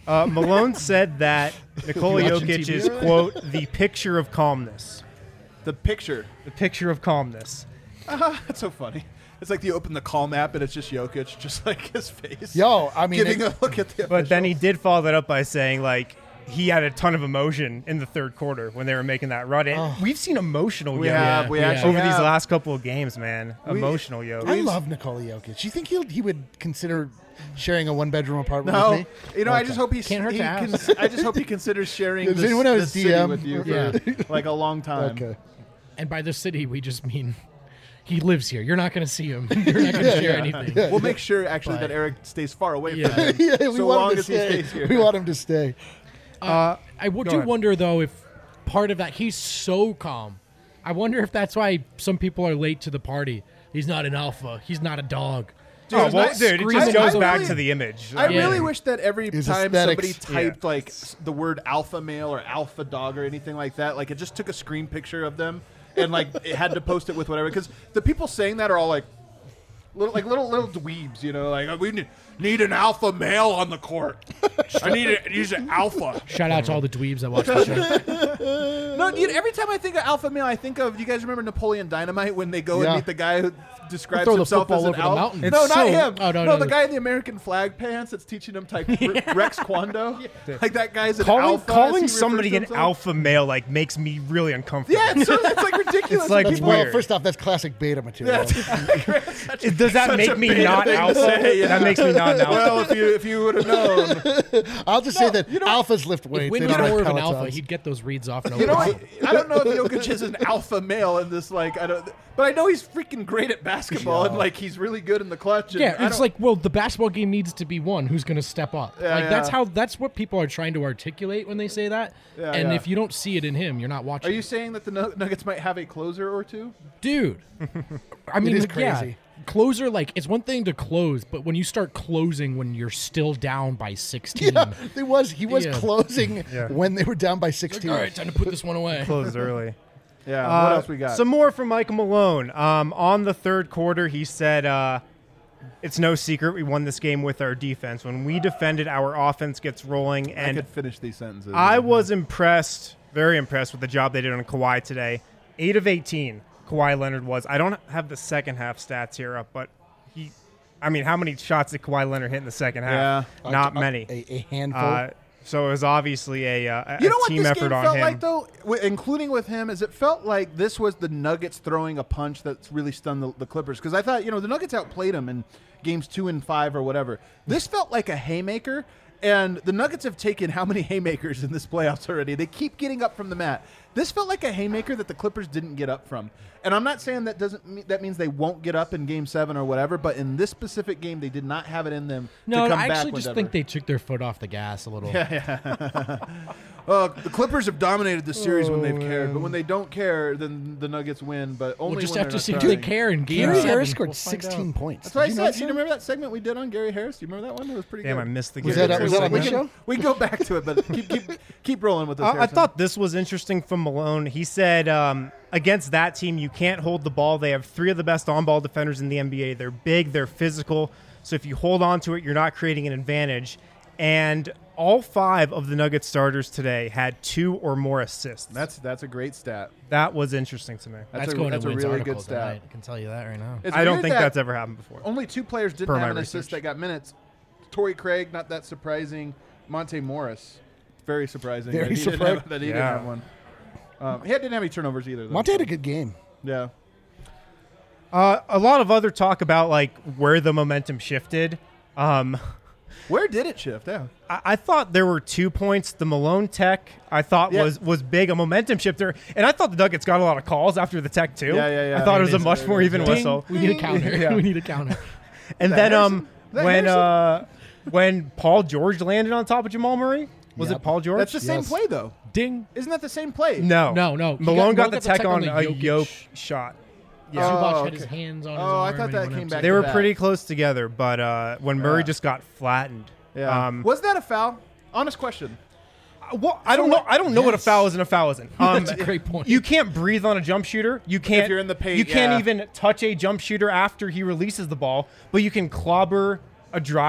Uh, Malone said that Nikola Watching Jokic T V? is, quote, the picture of calmness. The picture. The picture of calmness. Uh, that's so funny. It's like you open the Calm app and it's just Jokic, just like his face. Yo, I mean, giving it- a look at the. But then he did follow that up by saying, like, he had a ton of emotion in the third quarter when they were making that run. And Oh. we've seen emotional We Jokic have, we actually over these have. last couple of games, man. We- emotional Jokic. I love Nikola Jokic. Do you think he'll he would consider sharing a one bedroom apartment No, with me? you know, I Okay. just hope he's. Can't hurt he to ask. cons- I just hope he considers sharing Does this, anyone have this his city D M? with you for Yeah. like a long time. Okay. And by the city, we just mean he lives here. You're not going to see him. You're not going to share anything. We'll make sure actually But- that Eric stays far away Yeah. from him. yeah, we so want long him to as he stay. stays here. We want him to stay. Uh, I would go do ahead. wonder though if part of that he's so calm. I wonder if that's why some people are late to the party. He's not an alpha. He's not a dog. Oh, He's well, not dude, it screaming just goes out- back to the image. I Yeah. really wish that every His time aesthetics. somebody typed like s- the word alpha male or alpha dog or anything like that, like it just took a screen picture of them and like it had to post it with whatever. Because the people saying that are all like little, like little little dweebs, you know, like we need, need an alpha male on the court. I need a, use an alpha. Shout out to all the dweebs that watch the show. No, dude, every time I think of alpha male, I think of, you guys remember Napoleon Dynamite when they go Yeah. and meet the guy who describes Throw the himself football as an over the alpha? mountain. No, It's not so- him. oh, no, no, no, the no. guy in the American flag pants that's teaching him type Rex Kwando. Like that guy's an calling alpha. as he calling refers somebody to an himself. alpha male like makes me really uncomfortable. Yeah, it's, so, it's like ridiculous. It's like But it's people- Well, weird. first off, that's classic beta material. It- Does that such a make me beta not thing to alpha? say, yeah. That makes me not an alpha. Well, if you if you would have known, I'll just say that you know- alphas lift weights. If Win They was don't have more of an alpha, Pelotons. he'd get those reads off. No you know, I, problem. I don't know if Jokic is an alpha male in this. Like, I don't, but I know he's freaking great at basketball and like he's really good in the clutch. And Yeah, I it's don't- like, well, the basketball game needs to be one who's going to step up. Yeah, like that's yeah. how that's what people are trying to articulate when they say that. Yeah, and yeah. if you don't see it in him, you're not watching. Are you saying that the Nu- Nuggets might have a closer or two? Dude? I mean, is like, yeah, crazy. closer, like it's one thing to close, but when you start closing when you're still down by sixteen, Yeah, he was he was Yeah. closing when they were down by sixteen. all right, time to put this one away. Close early. Yeah. Uh, what else we got? Some more from Michael Malone. Um, on the third quarter, he said, uh, "It's no secret we won this game with our defense. When we defended, our offense gets rolling." I And could finish these sentences. I was impressed, very impressed with the job they did on Kawhi today. Eight of eighteen, Kawhi Leonard was. I don't have the second half stats here up, but he, I mean, how many shots did Kawhi Leonard hit in the second half? Yeah. Not A- a- many. a- a handful. Uh, so it was obviously a, uh, a You know what team this effort game on felt him. like, though, w- including with him, is it felt like this was the Nuggets throwing a punch that's really stunned the, the Clippers. Because I thought, you know, the Nuggets outplayed them in games two and five or whatever. This felt like a haymaker, and the Nuggets have taken how many haymakers in this playoffs already? They keep getting up from the mat. This felt like a haymaker that the Clippers didn't get up from. And I'm not saying that doesn't mean, that means they won't get up in game seven or whatever, but in this specific game, they did not have it in them No, to come I back actually with just ever. think they took their foot off the gas a little. Uh, the Clippers have dominated the series when they've Oh, cared, but when they don't care, then the Nuggets win. But only We'll just when have they're to see not if they trying. care in game Gary seven. Harris scored We'll find sixteen out. points. That's what I Did you said. notice Do you that? remember that segment we did on Gary Harris? Do you remember that one? It was pretty Damn, good. I missed the Was Gary that- was that on Harris this segment. show? We can go back to it, but keep keep keep rolling with this. I, I Harrison. thought this was interesting from Malone. He said um, against that team, you can't hold the ball. They have three of the best on-ball defenders in the N B A. They're big, they're physical. So if you hold on to it, you're not creating an advantage. And all five of the Nuggets starters today had two or more assists. that's that's a great stat. That was interesting to me. That's, That's a, going that's to a Wynn's really article good stat. tonight. I can tell you that right now. It's I don't weird think that that's ever happened before. Only two players didn't Per have my an assist research. that got minutes. Torrey Craig, not that surprising. Monte Morris, very surprising. Very that he didn't surprising. have, that he Yeah. didn't have one. Um, he didn't have any turnovers either. Though. Monte had a good game. Yeah. Uh, a lot of other talk about like where the momentum shifted. Um, Where did it shift? Yeah. I, I thought there were two points. The Malone tech I thought Yeah. was was big, a momentum shifter, and I thought the Nuggets got a lot of calls after the tech too. Yeah, yeah, yeah. I thought It it was a is, much it more is. even Ding. whistle. We need a counter. Yeah. We need a counter. And that then Harrison? um Is that when Harrison? uh when Paul George landed on top of Jamal Murray, was Yep. it Paul George? That's the same Yes. play though. Ding. Isn't that the same play? no, No, no. He Malone got- got, the tech on, a yoke shot. Yeah. Zubac Oh, had his okay. hands on his Oh, I arm thought and that he went came up back to- They to were back. pretty close together, but uh, when Murray Yeah. just got flattened. Yeah. Um, was that a foul? Honest question. Well, I don't know. I don't know what a Yes. foul is and a foul isn't. Um, That's a great point. You can't breathe on a jump shooter. You can't. you're in the paint, You can't yeah. even touch a jump shooter after he releases the ball. But you can clobber a drive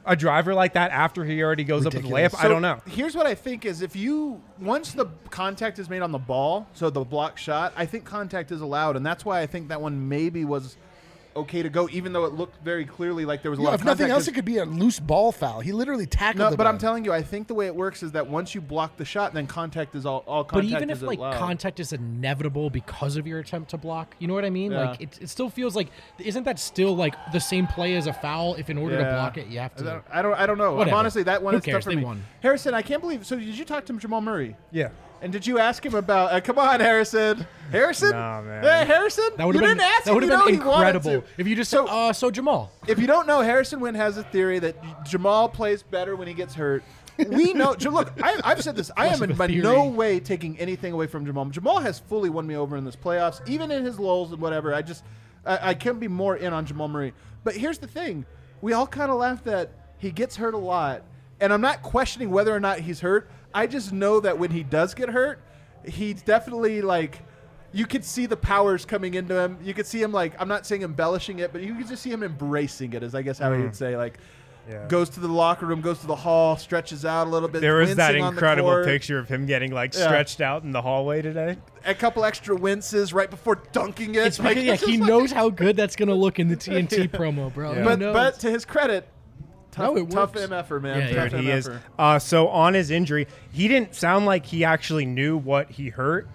a driver like that after he already goes Ridiculous. up with the layup? I So don't know. Here's what I think is if you once the contact is made on the ball, so the block shot, I think contact is allowed, and that's why I think that one maybe was okay to go, even though it looked very clearly like there was a Yeah, lot if of contact. nothing else, 'cause- it could be a loose ball foul. He literally tackled no, the but guy. I'm telling you, I think the way it works is that once you block the shot, then contact is all. all But contact even is if like allowed. contact is inevitable because of your attempt to block, you know what I mean? Yeah. Like it, it still feels like isn't that still like the same play as a foul? If in order to Yeah. block it, you have I to. don't. I don't, I don't know. Whatever. Honestly, that one Who is cares? tough for They me. won. Harrison, I can't believe. So did you talk to Jamal Murray? Yeah. And did you ask him about? Uh, come on, Harrison. Harrison. Nah, man. Hey, Harrison. That would you have been didn't ask that him. would You have know been he wanted incredible to. if you just So- said, uh, so Jamal. If you don't know, Harrison Wynn has a theory that Jamal plays better when he gets hurt. We know. J- Look, I, I've said this. I Less am of in a by theory. no way taking anything away from Jamal. Jamal has fully won me over in this playoffs, even in his lulls and whatever. I just, I, I can't be more in on Jamal Murray. But here's the thing: we all kind of laugh that he gets hurt a lot, and I'm not questioning whether or not he's hurt. I just know that when he does get hurt, he's definitely like. You could see the powers coming into him. You could see him like I'm not saying embellishing it, but you could just see him embracing it. Is I guess how he Mm. would say like. Yeah. Goes to the locker room, goes to the hall, stretches out a little bit. There was that wincing on the incredible court. picture of him getting like Yeah. stretched out in the hallway today. A couple extra winces right before dunking it. It's Like, because yeah, it's he just like- knows how good that's gonna look in the T N T promo, bro. He But knows. but to his credit, tough, No, it tough works. M F er, man. Yeah, tough Dude, he is. M F er. Uh, so on his injury, he didn't sound like he actually knew what he hurt.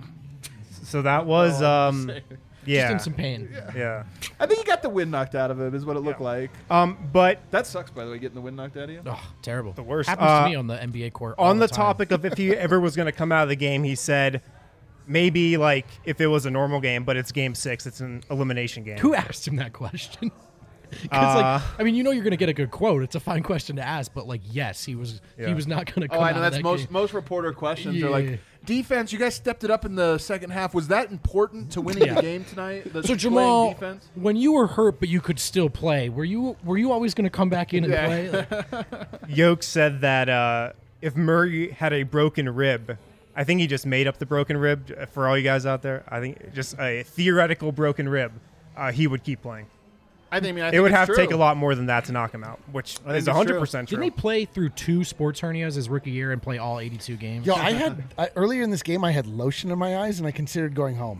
So that was, Oh, um, I'm yeah, just in some pain. yeah. I think he got the wind knocked out of him, is what it looked like. Um, but That sucks, by the way, getting the wind knocked out of you. Oh, terrible. the worst. Happens Uh, to me on the N B A court. all on the time. topic of if he ever was going to come out of the game, he said maybe like if it was a normal game, but it's game six, it's an elimination game. Who asked him that question? Because Uh, like, I mean, you know, you're gonna get a good quote. It's a fine question to ask, but like, yes, he was. Yeah. He was not gonna. Come Oh, I out know of that's that most game. most reporter questions are Yeah. like defense. You guys stepped it up in the second half. Was that important to winning Yeah. the game tonight? The So playing Jamal, defense. when you were hurt but you could still play, were you were you always gonna come back in and Yeah. play? Like, Yoke said that uh, if Murray had a broken rib, I think he just made up the broken rib uh, for all you guys out there. I think just a theoretical broken rib, uh, he would keep playing. I think, I mean, I It think would it's have to take a true. lot more than that to knock him out, which I think is it's one hundred true. percent true. Didn't he play through two sports hernias his rookie year and play all eighty-two games? Yo, I had I, earlier in this game, I had lotion in my eyes, and I considered going home.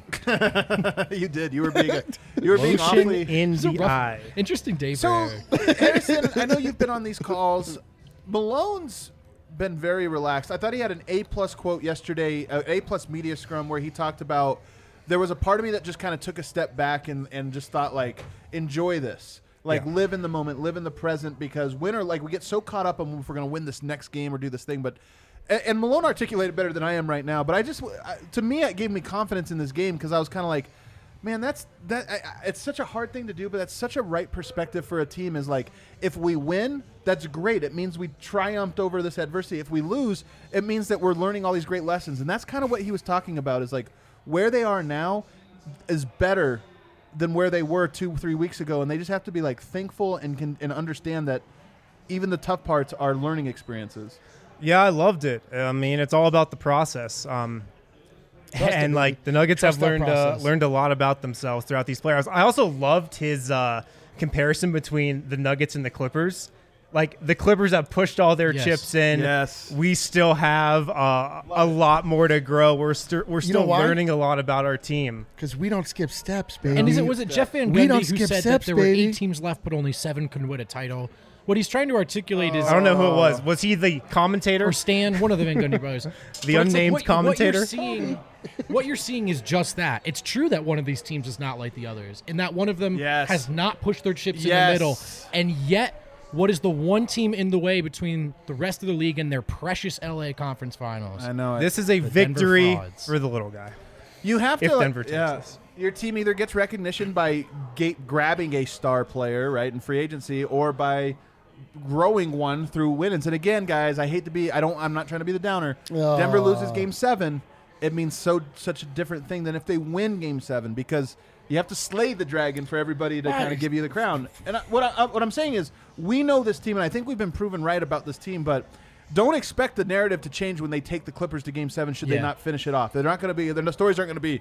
You did. You were being. A, you were being Lotion awfully. in It's a the rough- eye. Interesting day So, for Eric. Harrison, I know you've been on these calls. Malone's been very relaxed. I thought he had an A plus quote yesterday, an A plus media scrum, where he talked about there was a part of me that just kind of took a step back and, and just thought like, enjoy this. Like Yeah. live in the moment, live in the present, because winner, like we get so caught up on if we're going to win this next game or do this thing, but and, and Malone articulated better than I am right now. But I just, I, to me, it gave me confidence in this game because I was kind of like, man, that's that. I, I- it's such a hard thing to do, but that's such a right perspective for a team. Is like, if we win, that's great. It means we triumphed over this adversity. If we lose, it means that we're learning all these great lessons, and that's kind of what he was talking about. Is like where they are now is better than where they were two, three weeks ago, and they just have to be like thankful and can and understand that even the tough parts are learning experiences. Yeah, I loved it. I mean, it's all about the process. Um, Trust and it, like baby. the Nuggets Trust have that learned uh, process. learned a lot about themselves throughout these playoffs. I also loved his uh, comparison between the Nuggets and the Clippers. Like the Clippers have pushed all their Yes. chips in. Yes. We still have uh, a lot more to grow. We're st- we're You know still why? learning a lot about our team. Because we don't skip steps, baby. And is it was it Jeff Van We Gundy don't who skip said steps, that there were baby. eight teams left, but only seven could win a title? What he's trying to articulate is I don't know who it was. Was he the commentator? or Stan, one of the Van Gundy brothers. The But it's like unnamed what- commentator? What you're, seeing, what you're seeing is just that. It's true that one of these teams is not like the others, and that one of them Yes. has not pushed their chips in Yes. the middle. And yet, what is the one team in the way between the rest of the league and their precious L A Conference Finals? I know. This is a The Denver victory Frauds. for the little guy. You have If to. Denver takes yeah, this. your team either gets recognition by ga- grabbing a star player, right, in free agency, or by growing one through wins. And again, guys, I hate to be. I don't. I'm not trying to be the downer. Oh. Denver loses Game Seven. It means so such a different thing than if they win Game Seven, because you have to slay the dragon for everybody to kind of give you the crown. And I, what I, what I'm saying is, we know this team, and I think we've been proven right about this team, but. Don't expect the narrative to change when they take the Clippers to Game Seven. Should they Yeah. not finish it off? They're not going to be. The stories aren't going to be.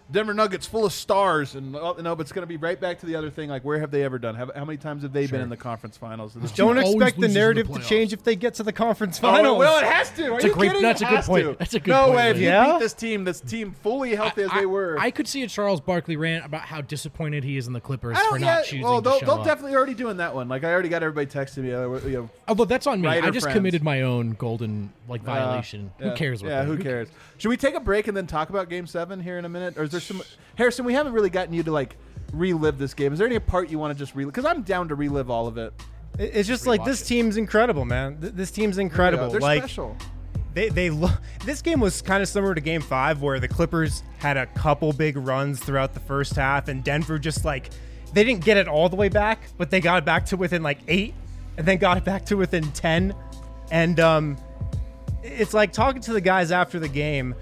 Denver Nuggets full of stars, and oh, no, but it's going to be right back to the other thing. Like, where have they ever done? Have, how many times have they Sure. been in the conference finals? Don't always expect the loses in the narrative to playoffs. change if they get to the conference Oh, finals. well, it has to. Are That's you a great- kidding? that's It a good has point. to. That's a good no point, way. If Lee. you Yeah? beat this team, this team fully healthy as I, they were. I could see a Charles Barkley rant about how disappointed he is in the Clippers I for don't not yet. choosing Well, they'll, to show they'll up. definitely already doing that one. Like, I already got everybody texting me. Uh, you know, Although that's on me. I writer just friends. committed my own golden like violation. Uh, yeah. Who cares? What Yeah, they- who cares? Should we take a break and then talk about Game Seven here in a minute, or is there some? Harrison, we haven't really gotten you to like relive this game. Is there any part you want to just relive? Because I'm down to relive all of it. It- It's just like this team's incredible, man. Th- This team's incredible. Yeah, they're like special. they they lo- this game was kind of similar to Game Five, where the Clippers had a couple big runs throughout the first half, and Denver just like they didn't get it all the way back, but they got it back to within like eight, and then got it back to within ten, and um, it's like talking to the guys after the game.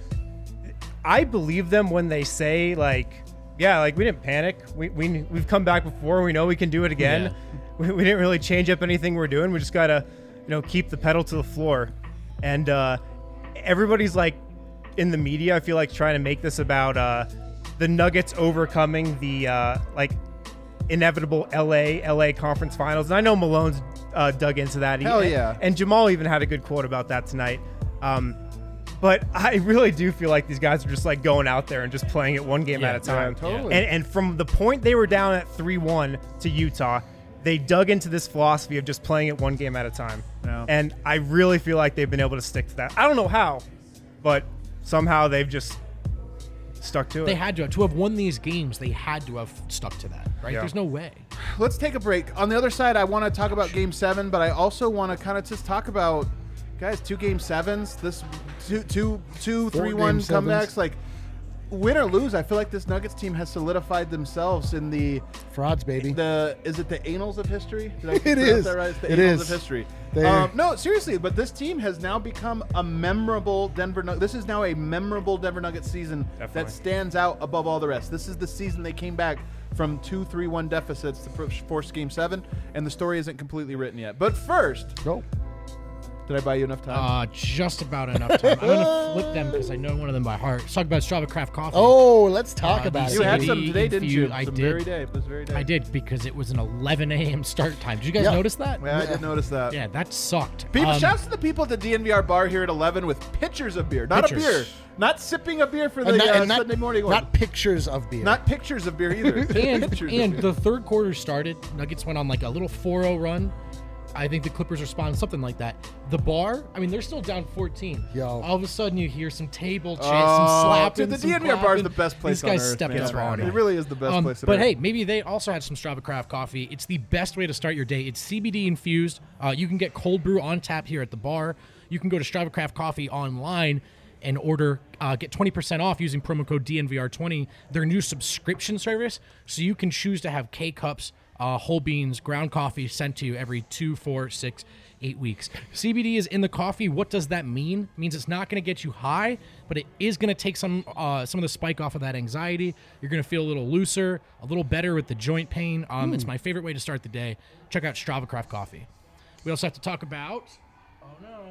I believe them when they say like, yeah, like we didn't panic. We we we've come back before. We know we can do it again. Yeah. We, we didn't really change up anything we're doing. We just gotta, you know, keep the pedal to the floor. And uh, everybody's like in the media, I feel like trying to make this about uh, the Nuggets overcoming the uh, like inevitable L A L A conference finals. And I know Malone's uh, dug into that. He- Hell yeah. And Jamal even had a good quote about that tonight. Um, but I really do feel like these guys are just like going out there and just playing it one game Yeah, at a time. yeah, totally. And, and from the point they were down at three one to Utah, they dug into this philosophy of just playing it one game at a time. Yeah. And I really feel like they've been able to stick to that. I don't know how, but somehow they've just stuck to They it. had to have, to have won these games. They had to have stuck to that, right? Yeah. There's no way. Let's take a break. On the other side, I want to talk about Game Seven, but I also want to kind of just talk about, guys, two Game Sevens. This two two two Four three one Game Sevens. comebacks. Like, win or lose, I feel like this Nuggets team has solidified themselves in the Frauds, baby. the is it the annals of history? Did I It pronounce is. that right? It's the It annals is. of history. They- Um, no, seriously, but this team has now become a memorable Denver. Nug- This is now a memorable Denver Nuggets season Definitely. that stands out above all the rest. This is the season they came back from two three one deficits to fir- force Game Seven, and the story isn't completely written yet. But first, Go. did I buy you enough time? Uh, just about enough time. I'm gonna flip them because I know one of them by heart. Let's talk about Strava Craft Coffee. Oh, let's talk Uh, about these it. you had C B D some today, didn't you? infused- I Some did. very day. This very day. I did because it was an eleven a.m. start time. Did you guys Yeah. notice that? Yeah, I did notice that. Yeah, that sucked. People, Um, shouts to the people at the D N V R bar here at eleven with pitchers of beer, not Pitchers. a beer, not sipping a beer for the And not, uh, and not, Sunday morning one. not pictures of beer. Not pictures of beer either. and pictures. and the third quarter started. Nuggets went on like a little four oh run. I think the Clippers responded something like that. The bar, I mean, they're still down fourteen. Yo. All of a sudden, you hear some table chants, Oh, some slapping. dude, the some D N V R bar is clapping. the best place These guys on earth, stepped man. up on It it. really is the best Um, place on But earth. hey, maybe they also had some Strava Craft coffee. It's the best way to start your day. It's C B D infused. Uh, you can get cold brew on tap here at the bar. You can go to Strava Craft Coffee online and order, uh, get twenty percent off using promo code D N V R twenty, their new subscription service. So you can choose to have K-Cups, uh, whole beans, ground coffee sent to you every two, four, six, eight weeks. C B D is in the coffee. What does that mean? It means it's not going to get you high, but it is going to take some uh, some of the spike off of that anxiety. You're going to feel a little looser, a little better with the joint pain. Um, It's my favorite way to start the day. Check out Strava Craft Coffee. We also have to talk about... Oh,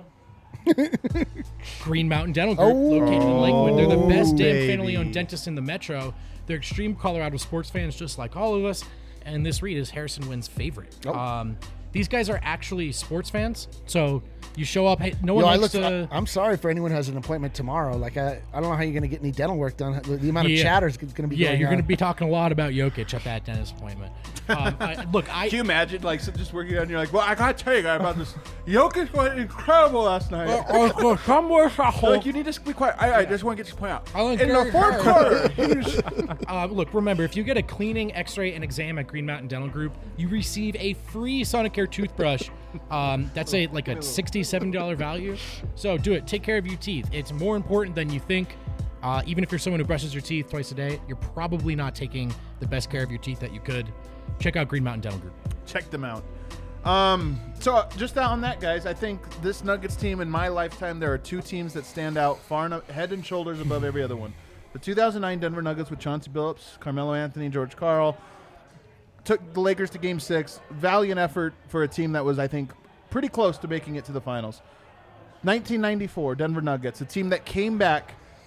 no. Green Mountain Dental Group, located in Lakewood. They're the best damn baby. family-owned dentist in the metro. They're extreme Colorado sports fans, just like all of us. And this read is Harrison Wynn's favorite. Um, these guys are actually sports fans, so you show up. Hey, no one Yo, I likes look, to. I, I'm sorry for anyone who has an appointment tomorrow. Like, I, I don't know how you're going to get any dental work done. The, the amount of Yeah. chatter is going to be yeah, going you're on. going to be talking a lot about Jokic at that dentist appointment. Um, I, look, I Can you imagine, like, so just working on? You're like, well, I gotta tell you guys about this. Jokic was incredible last night. Like, you need to be quiet. I, I just want to get this point out. I In the fourth quarter, he's- Uh, look, remember, if you get a cleaning, x-ray, and exam at Green Mountain Dental Group, you receive a free Sonicare toothbrush. Um, that's a like a sixty, seventy dollars value. So do it. Take care of your teeth. It's more important than you think. Uh, even if you're someone who brushes your teeth twice a day, you're probably not taking the best care of your teeth that you could. Check out Green Mountain Dental Group. check them out. Um, so uh, just on that, guys, I think this Nuggets team in my lifetime, there are two teams that stand out far enough, head and shoulders above every other one. The two thousand nine Denver Nuggets with Chauncey Billups, Carmelo Anthony, George Karl took the Lakers to Game Six. Valiant effort for a team that was, I think, pretty close to making it to the finals. nineteen ninety-four Denver Nuggets, a team that came back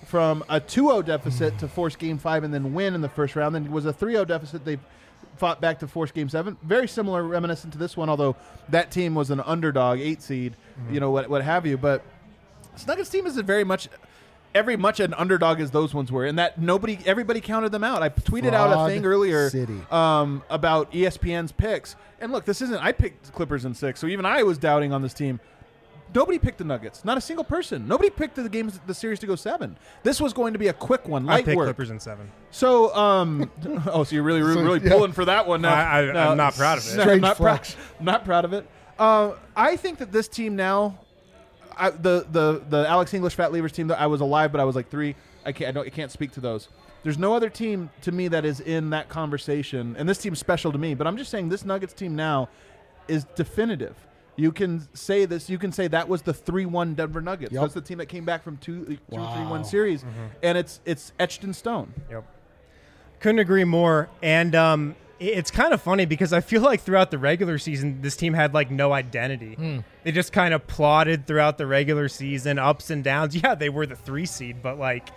from a two oh deficit to force Game Five and then win in the first round. Then it was a three oh deficit. They fought back to force Game Seven. Very similar, reminiscent to this one, although that team was an underdog, eight seed, mm-hmm. you know, what what have you. But this Nuggets team is a very much, every much an underdog as those ones were, and that nobody, everybody counted them out. I tweeted Fraud out a thing earlier City. Um, about E S P N's picks, and look, this isn't. I picked Clippers in six, so even I was doubting on this team. Nobody picked the Nuggets. Not a single person. Nobody picked the games, the series to go seven. This was going to be a quick one, light I picked work. Clippers in seven. So, um, oh, so you're really, really, really yeah. pulling for that one now. I, I, No, I'm not proud of it. no, I'm not, proud, not proud of it. Uh, I think that this team now, I, the the the Alex English Fat Levers team, that I was alive, but I was like three. I can't. I, don't, I can't speak to those. There's no other team to me that is in that conversation, and this team's special to me. But I'm just saying this Nuggets team now is definitive. You can say this. You can say that was the three one Denver Nuggets. Yep. That's the team that came back from two, two Wow. three one series, Mm-hmm. and it's it's etched in stone. Yep. Couldn't agree more. And um, it- it's kind of funny because I feel like throughout the regular season, this team had like no identity. Mm. They just kind of plodded throughout the regular season, ups and downs. Yeah, they were the three seed, but like,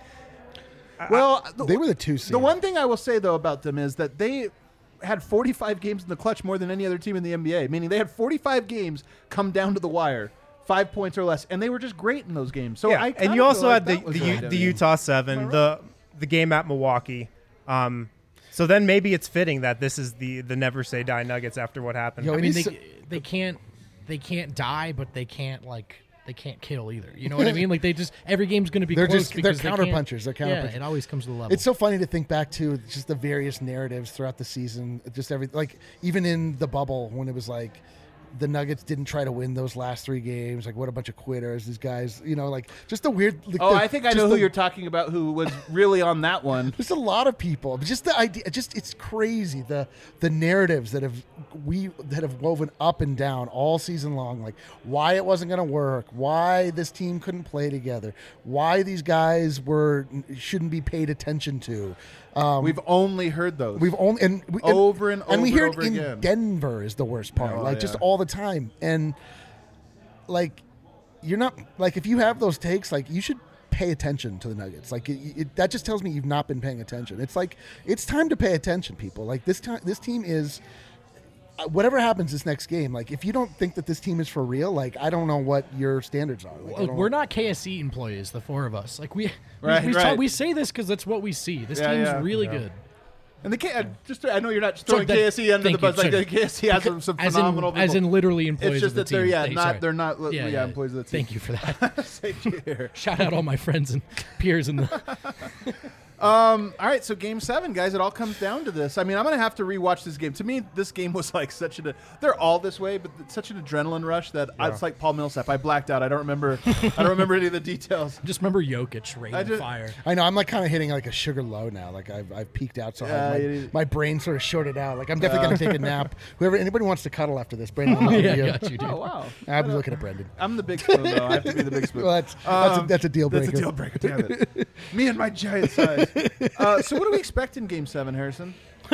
Well, the, They were the two seed. the one thing I will say though about them is that they had forty-five games in the clutch more than any other team in the N B A. Meaning they had forty-five games come down to the wire, five points or less, and they were just great in those games. So yeah. I and kinda you also feel like had the that was the, their U, the identity. Utah seven, the the game at Milwaukee. Um, so then maybe it's fitting that this is the the never say die Nuggets after what happened. Yo, I and mean, he's they so- they can't they can't die, but they can't like they can't kill either. You know what I mean? Like they just every game's going to be They're close just- they're because they counter can't- punchers. They're counter yeah, punchers. it always comes to the level. It's so funny to think back to just the various narratives throughout the season. Just every like even in the bubble when it was like the Nuggets didn't try to win those last three games. Like what a bunch of quitters. These guys, you know, like just the weird. Like, Oh, the- I think I just know who the- you're talking about. Who was really on that one? There's a lot of people. But just the idea, just it's crazy the the narratives that have we that have woven up and down all season long. Like why it wasn't going to work, why this team couldn't play together, why these guys were shouldn't be paid attention to. Um, We've only heard those. We've only and we, and- Over and and we over hear and it over in again. Denver is the worst part. Oh, like just yeah. all the time, and like you're not like if you have those takes, like you should pay attention to the Nuggets. Like it, it, that just tells me you've not been paying attention. It's like it's time to pay attention, people. Like this time, this team is. uh, Whatever happens this next game, like if you don't think that this team is for real, like I don't know what your standards are. Like, I Look, don't- we're not K S E employees, the four of us. Like we Right, we, we, right. talk- we say this because that's what we see. This Yeah, team's yeah. really Yeah. good. And the K, uh, just I know you're not just Sorry, throwing that- K S E under the thank bus. you, Like sorry. the K S E has some, some as in, phenomenal as people. in literally employees It's just of the that they're team. yeah, They- not sorry. they're not li- Yeah, yeah, yeah. employees of the team. Thank you for that. Same here. Shout out all my friends and peers in the. Um, all right, so game seven, guys, it all comes down to this. I mean, I'm going to have to rewatch this game. To me, this game was like such a, they're all this way, but it's such an adrenaline rush that I, it's like Paul Millsap. I blacked out. I don't remember, I don't remember any of the details. Just remember Jokic I raining just- fire. I know I'm like kind of hitting like a sugar low now. Like I've, I've peaked out so Yeah, hard. you- My, my brain sort of shorted out. Like I'm definitely gonna take a nap. Whoever anybody wants to cuddle after this, Brandon. I'm Yeah, you. I got you, dude. Oh, wow. I'm looking at Brendan. I'm the big spoon, though. I have to be the big spoon. Well, that's that's, a, Um, that's a deal breaker. That's a deal breaker, damn it. Me and my giant size. Uh, so what do we expect in game seven, Harrison?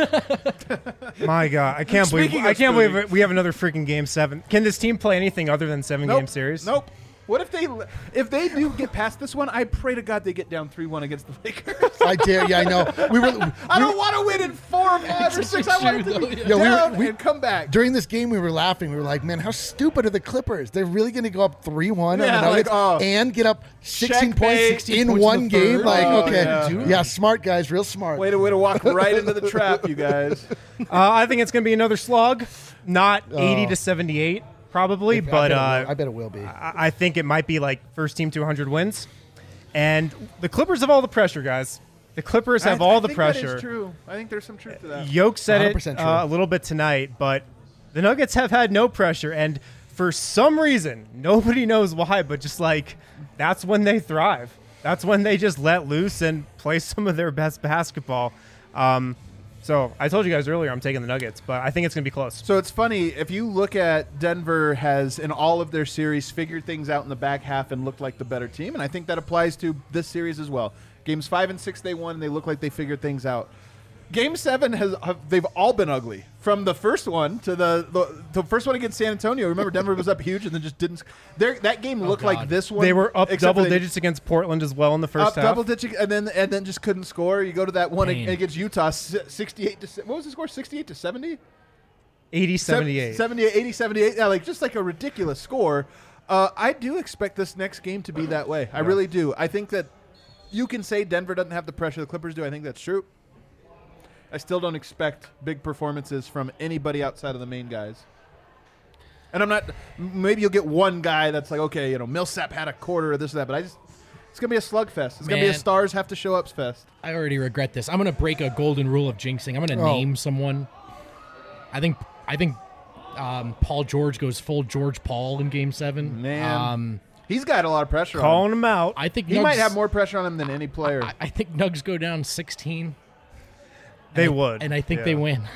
My God, I can't believe Speaking I of can't spooning. believe we have another freaking game seven. Can this team play anything other than seven Nope. game series? Nope. What if they if they do get past this one? I pray to God they get down three one against the Lakers. I dare. Yeah, I know. We were. I we don't were- want to win in four or five or six. I want it to be Yo, we were- down we- and come back. During this game, we were laughing. We were like, "Man, how stupid are the Clippers? They're really going to go up three one on Yeah, the Nuggets like, oh, and get up sixteen points checkmate. sixteen in points in one the game." third. Like, Oh, okay, yeah. yeah. smart guys, real smart. Way to way to walk right into the trap, you guys. Uh, I think it's going to be another slog, not Oh. eighty to seventy-eight probably, I but bet it will. uh, I bet it will be. I I think it might be like first team to one hundred wins. And the Clippers have all the pressure, guys. The Clippers have I, all I the think pressure. That is true. I think there's some truth to that. Yoke said one hundred it percent true. uh, a little bit tonight, but the Nuggets have had no pressure, and for some reason, nobody knows why, but just like that's when they thrive. That's when they just let loose and play some of their best basketball. Um, so I told you guys earlier I'm taking the Nuggets, but I think it's going to be close. So it's funny if you look at Denver has in all of their series figured things out in the back half and looked like the better team, and I think that applies to this series as well. Games five and six they won, and they look like they figured things out. Game seven has have, they've all been ugly. From the first one to the, the the first one against San Antonio. Remember, Denver was up huge and then just didn't. That game looked oh like this one. They were up double they, digits against Portland as well in the first up half. double digits and then and then just couldn't score. You go to that one Pain. against Utah, sixty-eight to what was the score? sixty-eight to seventy. eighty seventy-eight. seventy-eight, eighty seventy-eight. Yeah, like just like a ridiculous score. Uh, I do expect this next game to be that way. I Yeah. really do. I think that you can say Denver doesn't have the pressure the Clippers do. I think that's true. I still don't expect big performances from anybody outside of the main guys. And I'm not. Maybe you'll get one guy that's like, okay, you know, Millsap had a quarter of this or that, but I just. It's gonna be a slugfest. It's gonna be a Man. stars have to show up fest. I already regret this. I'm gonna break a golden rule of jinxing. I'm gonna Oh. name someone. I think. I think. Um, Paul George goes full George Paul in Game Seven. Man, um, he's got a lot of pressure. Calling on him. him out. I think He Nugs, might have more pressure on him than any player. I, I think Nugs go down sixteen. They and I- would. and I think Yeah. they win.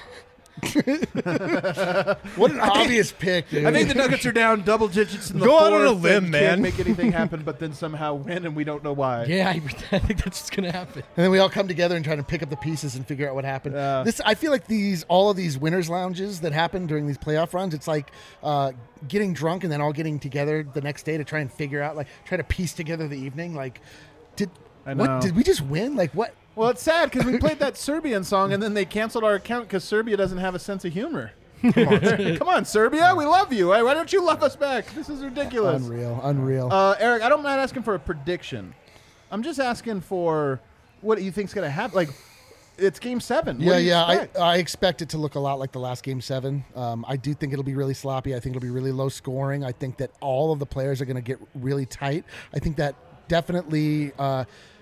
What an obvious pick, dude. I think the Nuggets are down double digits in the Go fourth out on a and limb, can't man. make anything happen, but then somehow win, and we don't know why. Yeah, I, I think that's what's gonna happen. And then we all come together and try to pick up the pieces and figure out what happened. Yeah. This, I feel like these, all of these winners' lounges that happen during these playoff runs, it's like uh, getting drunk and then all getting together the next day to try and figure out, like, try to piece together the evening. Like, did I know. what? Did we just win? Like, what? Well, it's sad because we played that Serbian song, and then they canceled our account because Serbia doesn't have a sense of humor. Come on, Come on, Serbia, we love you. Why why don't you love us back? This is ridiculous. Unreal, unreal. Uh, Eric, I don't mind asking for a prediction. I'm just asking for what you think's going to happen. Like, it's Game Seven. What Yeah, do you yeah. expect? I, I expect it to look a lot like the last Game Seven. Um, I do think it'll be really sloppy. I think it'll be really low scoring. I think that all of the players are going to get really tight. I think that definitely uh,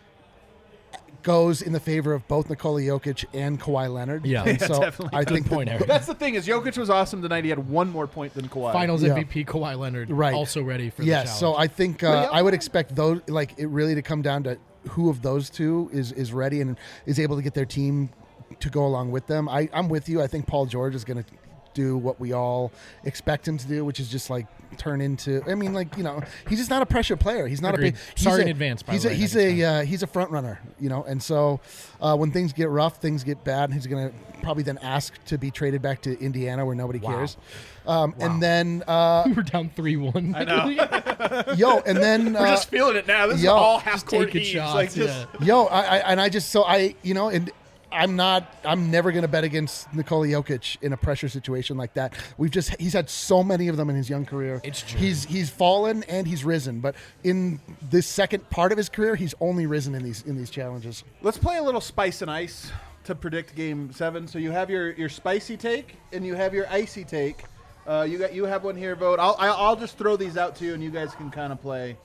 goes in the favor of both Nikola Jokic and Kawhi Leonard. Yeah. And Yeah, so definitely. I Good think point, that, Eric. That's the thing is Jokic was awesome tonight. He had one more point than Kawhi. Finals Yeah. M V P Kawhi Leonard, Right. also ready for yes. the So challenge. I think uh, I would expect those like it really to come down to who of those two is is ready and is able to get their team to go along with them. I, I'm with you. I think Paul George is going to do what we all expect him to do, which is just like turn into. I mean, like you know, he's just not a pressure player. He's not Agreed. a big. he's Sorry a, in advance, by he's the a way, he's Nuggets a uh, he's a front runner, you know. And so uh, when things get rough, things get bad. He's going to probably then ask to be traded back to Indiana where nobody Wow. cares. Um, And then uh, we were down three one. I know. yo, and then We're uh, just feeling it now. This yo, is all half just court taking heaves. shots, Like just, yeah. Yo, I, I and I just so I you know and I'm not I'm never gonna bet against Nikola Jokic in a pressure situation like that. We've just he's had so many of them in his young career. It's true. He's he's fallen and he's risen, but in this second part of his career, he's only risen in these in these challenges. Let's play a little spice and ice to predict Game Seven. So you have your, your spicy take and you have your icy take. Uh, you got you have one here, vote. I'll I'll I'll just throw these out to you, and you guys can kind of play.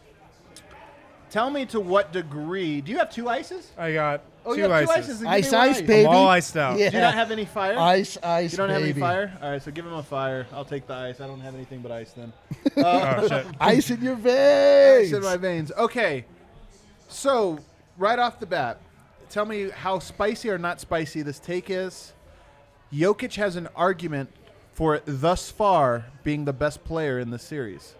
Tell me to what degree. Do you have two ices? I got Oh, two you have two ices. ices. Then give Ice me one ice, baby. I'm all iced out. Yeah. Do you not have any fire? Ice, ice, You don't have any baby. fire? All right, so give him a fire. I'll take the ice. I don't have anything but ice then. Oh, shit. Ice in your veins. Ice in my veins. Okay. So, right off the bat, tell me how spicy or not spicy this take is. Jokic has an argument for thus far being the best player in the series.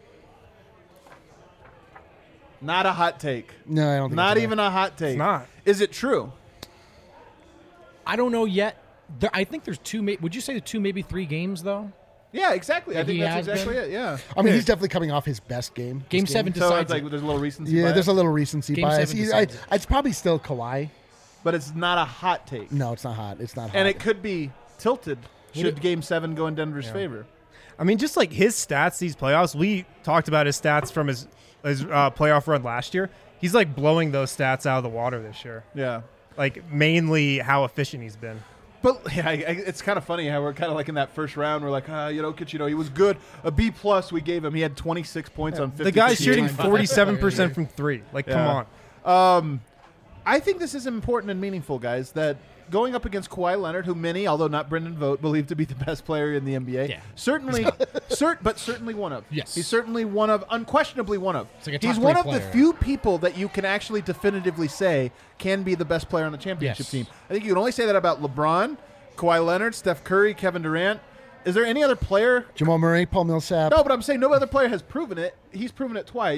Not a hot take. No, I don't think Not it's even a hot take. It's not. Is it true? I don't know yet. There, I think there's two. May, would you say the two, maybe three games though? Yeah, exactly. I That think he that's has exactly been? it. Yeah. I mean, he's definitely coming off his best game. Game this seven So decides it's like it. there's a little recency Yeah, bias, there's a little recency Game bias. seven He- I, decides it. it's probably still Kawhi. but it's not a hot take. No, it's not hot. It's not hot. And it could be tilted should it- Game Seven go in Denver's favor. I mean, just like his stats these playoffs, we talked about his stats from his his uh, playoff run last year. He's like blowing those stats out of the water this year. Yeah. Like mainly how efficient he's been. But yeah, I, I, it's kind of funny how we're kind of like in that first round. We're like, ah, you know, you know, he was good. A B plus we gave him. He had twenty-six points on fifty. The guy's shooting percent. forty-seven percent from three. Like, Yeah. come on. Um, I think this is important and meaningful, guys. That going up against Kawhi Leonard, who many, although not Brendan Vogt, believe to be the best player in the N B A. Yeah. Certainly, cert, but certainly one of. Yes. He's certainly one of, unquestionably one of. It's like a top He's three one of the player. few people that you can actually definitively say can be the best player on the championship Yes. team. I think you can only say that about LeBron, Kawhi Leonard, Steph Curry, Kevin Durant. Is there any other player? Jamal Murray, Paul Millsap. No, but I'm saying no other player has proven it. He's proven it twice.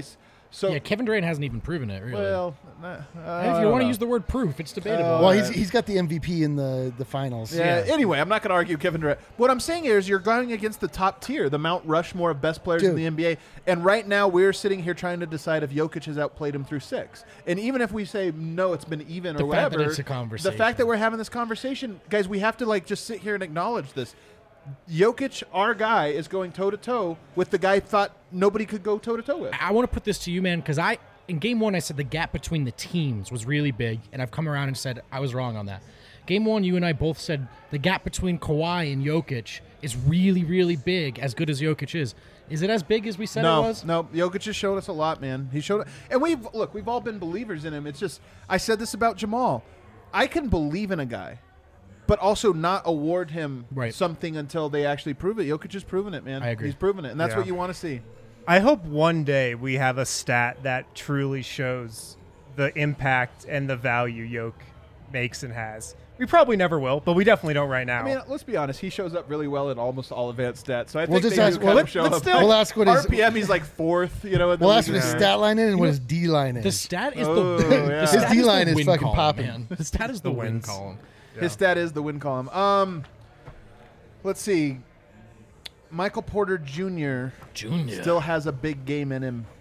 So yeah, Kevin Durant hasn't even proven it, really. Well, uh, And if you want to use the word proof, it's debatable. Uh, Well, he's, he's got the M V P in the, the finals. Yeah, Anyway, I'm not going to argue Kevin Durant. What I'm saying here is you're going against the top tier, the Mount Rushmore of best players Dude. in the N B A. And right now we're sitting here trying to decide if Jokic has outplayed him through six. And even if we say no, it's been even The or fact that whatever, it's a conversation. the fact that we're having this conversation, guys, we have to like just sit here and acknowledge this. Jokic, our guy, is going toe to toe with the guy thought nobody could go toe to toe with. I want to put this to you, man, because I in game one I said the gap between the teams was really big, and I've come around and said I was wrong on that. Game one, you and I both said the gap between Kawhi and Jokic is really, really big, as good as Jokic is. Is it as big as we said no, it was? No, Jokic has showed us a lot, man. He showed, and we've look, we've all been believers in him. It's just I said this about Jamal. I can believe in a guy, but also not award him Right. something until they actually prove it. Jokic has proven it, man. I agree. He's proven it, and that's Yeah. what you want to see. I hope one day we have a stat that truly shows the impact and the value Yoke makes and has. We probably never will, but we definitely don't right now. I mean, let's be honest. He shows up really well in almost all advanced stats. So I We'll think just they ask- do kind well, of show but up. still- We'll ask what his- R P M. He's like fourth. You know. in the We'll ask what league. his stat line is and what know, his D line is. The stat is Oh, the, yeah. the His stat D line the is win fucking column, popping. man. The stat is the, The win wins. column. His stat is the win column. Um, let's see. Michael Porter Junior Junior still has a big game in him.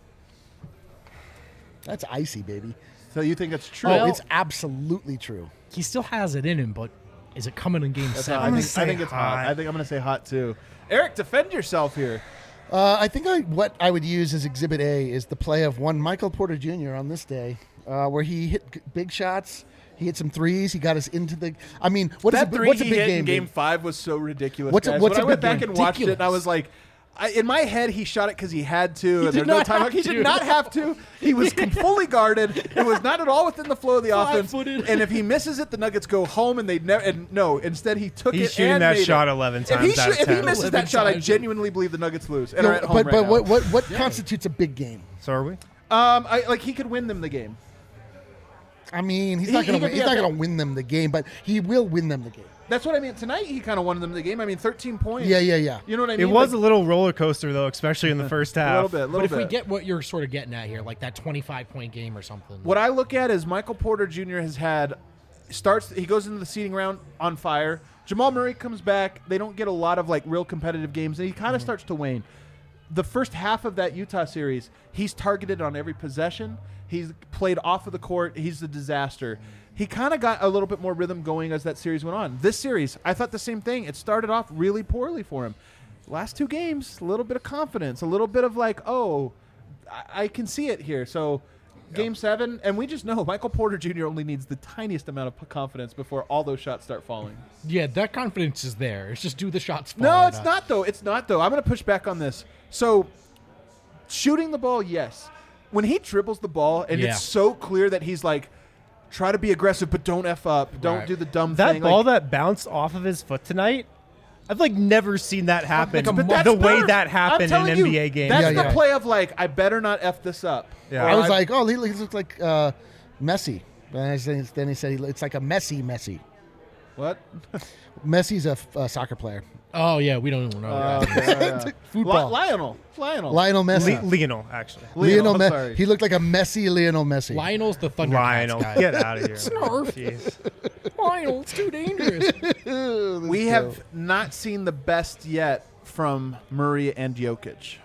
That's icy, baby. So you think it's true? Oh, Well- it's absolutely true. He still has it in him, but is it coming in game That's seven? hot. I gonna think, I think say it's hot. hot. I think I'm going to say hot too. Eric, defend yourself here. Uh, I think I, what I would use as Exhibit A is the play of one Michael Porter Junior on this day, uh, where he hit g- big shots. He hit some threes. He got us into the. I mean, what is that a, bi- three what's a he big hit game? in Game dude? Five was so ridiculous. What's a- guys. what's when a I went big back game? and watched it, and I was like, I, in my head, he shot it because he had to, and did there's no not time. have He to. did not have to. He was fully guarded. It was not at all within the flow of the offense. Five-footed. And if he misses it, the Nuggets go home, and they never. And no, instead he took He's it. shooting and that made shot it. eleven If he, times out of if he ten. misses eleven that shot, I times. genuinely believe the Nuggets lose. And No, are at home but right but now. what what, what constitutes a big game? So are we? Um, I, like he could win them the game. I mean, he's He- not he going to could he's be not a- going to win them the game, but he will win them the game. That's what I mean. Tonight he kind of won them the game. I mean, thirteen points. Yeah, yeah, yeah. You know what I It mean? was Like, a little roller coaster though, especially in the first half. a little bit. A little But if bit. we get what you're sort of getting at here, like that twenty-five point game or something. What I look at is Michael Porter Junior has had starts. He goes into the seeding round on fire. Jamal Murray comes back. They don't get a lot of like real competitive games, and he kind of starts to wane. The first half of that Utah series, he's targeted on every possession. He's played off of the court. He's a disaster. He kind of got a little bit more rhythm going as that series went on. This series, I thought the same thing. It started off really poorly for him. Last two games, a little bit of confidence, a little bit of like, oh, I, I can see it here. So, game seven, and we just know Michael Porter Junior only needs the tiniest amount of p- confidence before all those shots start falling. yeah, that confidence is there. It's just do the shots fall. No, or it's not though. It's not though. I'm going to push back on this. So, shooting the ball, yes. When he dribbles the ball, and Yeah. it's so clear that he's like, try to be aggressive, but don't f up. Don't Right. do the dumb That thing. ball like, that bounced off of his foot tonight, I've like never seen that happen. Like a But mo- the way better. that I'm happened in telling an you, N B A game. That's Yeah, the yeah. play of like, I better not f this up. Yeah. Or I was like, oh, he looks looks like uh, Messi. And I said- then he said he, it's like a messy Messi. what? Messi's a, f- a soccer player. Oh yeah, we don't even know. Uh, that. okay, yeah. Football. Li- Lionel. Lionel. Lionel Messi. Le- Lionel, actually. Lionel I'm Me- sorry. He looked like a messy Lionel Messi. Lionel's the Thundercats Lionel, guy. get out of here. Snarf. Jeez. Lionel, it's too dangerous. We have not seen the best yet from Murray and Jokic.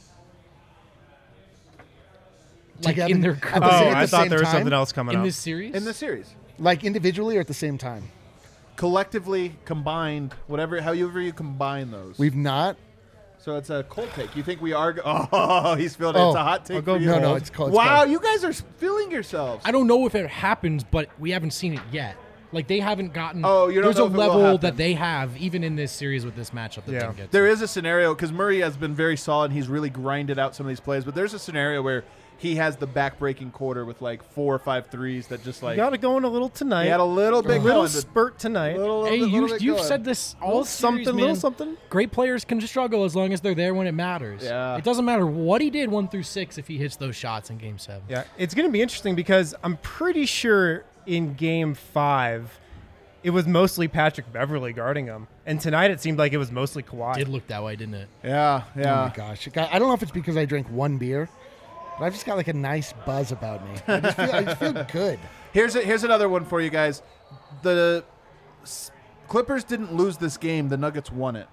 like Together- in their at the career. Oh, same- at I the thought same there was time? something else coming in up. this series. In the series. Like individually or at the same time? Collectively combined, whatever, however you combine those. We've not. So it's a cold take. You think we are? Go- oh, he's feeling it. Oh, It's a hot take. I'll go for you. No, no, it's cold. It's Wow, cold. you guys are feeling yourselves. I don't know if it happens, but we haven't seen it yet. Like they haven't gotten. Oh, you don't There's know a if it will level happen. that they have, even in this series with this matchup that Yeah. they can get. There to. is a scenario because Murray has been very solid. He's really grinded out some of these plays, but there's a scenario where he has the back-breaking quarter with like four or five threes that just like Got it going a little tonight. he had a little bit a little going, but spurt tonight. little, Hey, little, you little bit you've going. said this all Little series, something, man. little something. Great players can struggle as long as they're there when it matters. Yeah. It doesn't matter what he did one through six if he hits those shots in Game Seven. Yeah, it's going to be interesting because I'm pretty sure in Game Five, it was mostly Patrick Beverly guarding him, and tonight it seemed like it was mostly Kawhi. Did look that way, didn't it? Yeah, Oh yeah. my gosh. I don't know if it's because I drank one beer, But I've just got like a nice buzz about me. I just feel, I just feel good. Here's a, here's another one for you guys. The S- Clippers didn't lose this game. The Nuggets won it.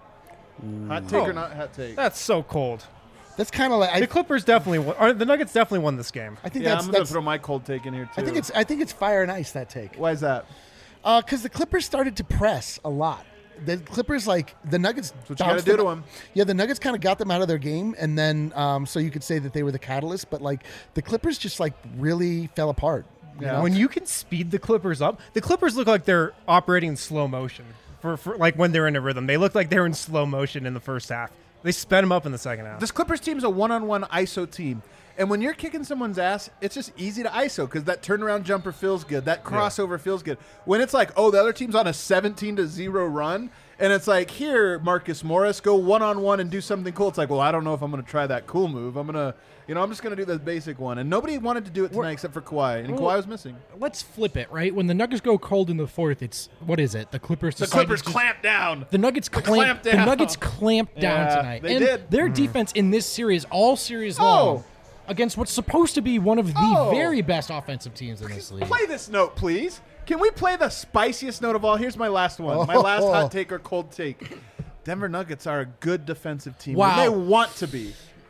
Hot take Oh. or not hot take? That's so cold. That's kind of like I, The Clippers definitely won. Or the Nuggets definitely won this game. I think Yeah, that's, I'm gonna that's throw my cold take in here too. I think it's I think it's fire and ice, that take. Why is that? Because the Clippers started to press a lot. The Clippers, like the Nuggets, That's what you gotta bounced do them- to 'em. Yeah, the Nuggets kind of got them out of their game, and then um, so you could say that they were the catalyst. But like the Clippers just like really fell apart. You know? When you can speed the Clippers up, the Clippers look like they're operating in slow motion. For, for like when they're in a rhythm, they look like they're in slow motion in the first half. They sped them up in the second half. This Clippers team is a one-on-one I S O team. And when you're kicking someone's ass, it's just easy to I S O because that turnaround jumper feels good. That crossover feels good. When it's like, oh, the other team's on a seventeen to zero run, and it's like, here, Marcus Morris, go one-on-one and do something cool. It's like, well, I don't know if I'm going to try that cool move. I'm going to, you know, I'm just going to do the basic one. And nobody wanted to do it tonight except for Kawhi. And Well, Kawhi was missing. Let's flip it, right? When the Nuggets go cold in the fourth, it's what is it? The Clippers. The decided Clippers to- clamp down. The Nuggets The clamp, clamp down. The Nuggets clamped down Yeah, tonight. they and did. Their Mhm. defense in this series, all series Oh. long, against what's supposed to be one of the Oh. very best offensive teams in this league. Play this note, please. Can we play the spiciest note of all? Here's my last one. My last Oh. hot take or cold take. Denver Nuggets are a good defensive team. Wow. They want to be.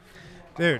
Dude,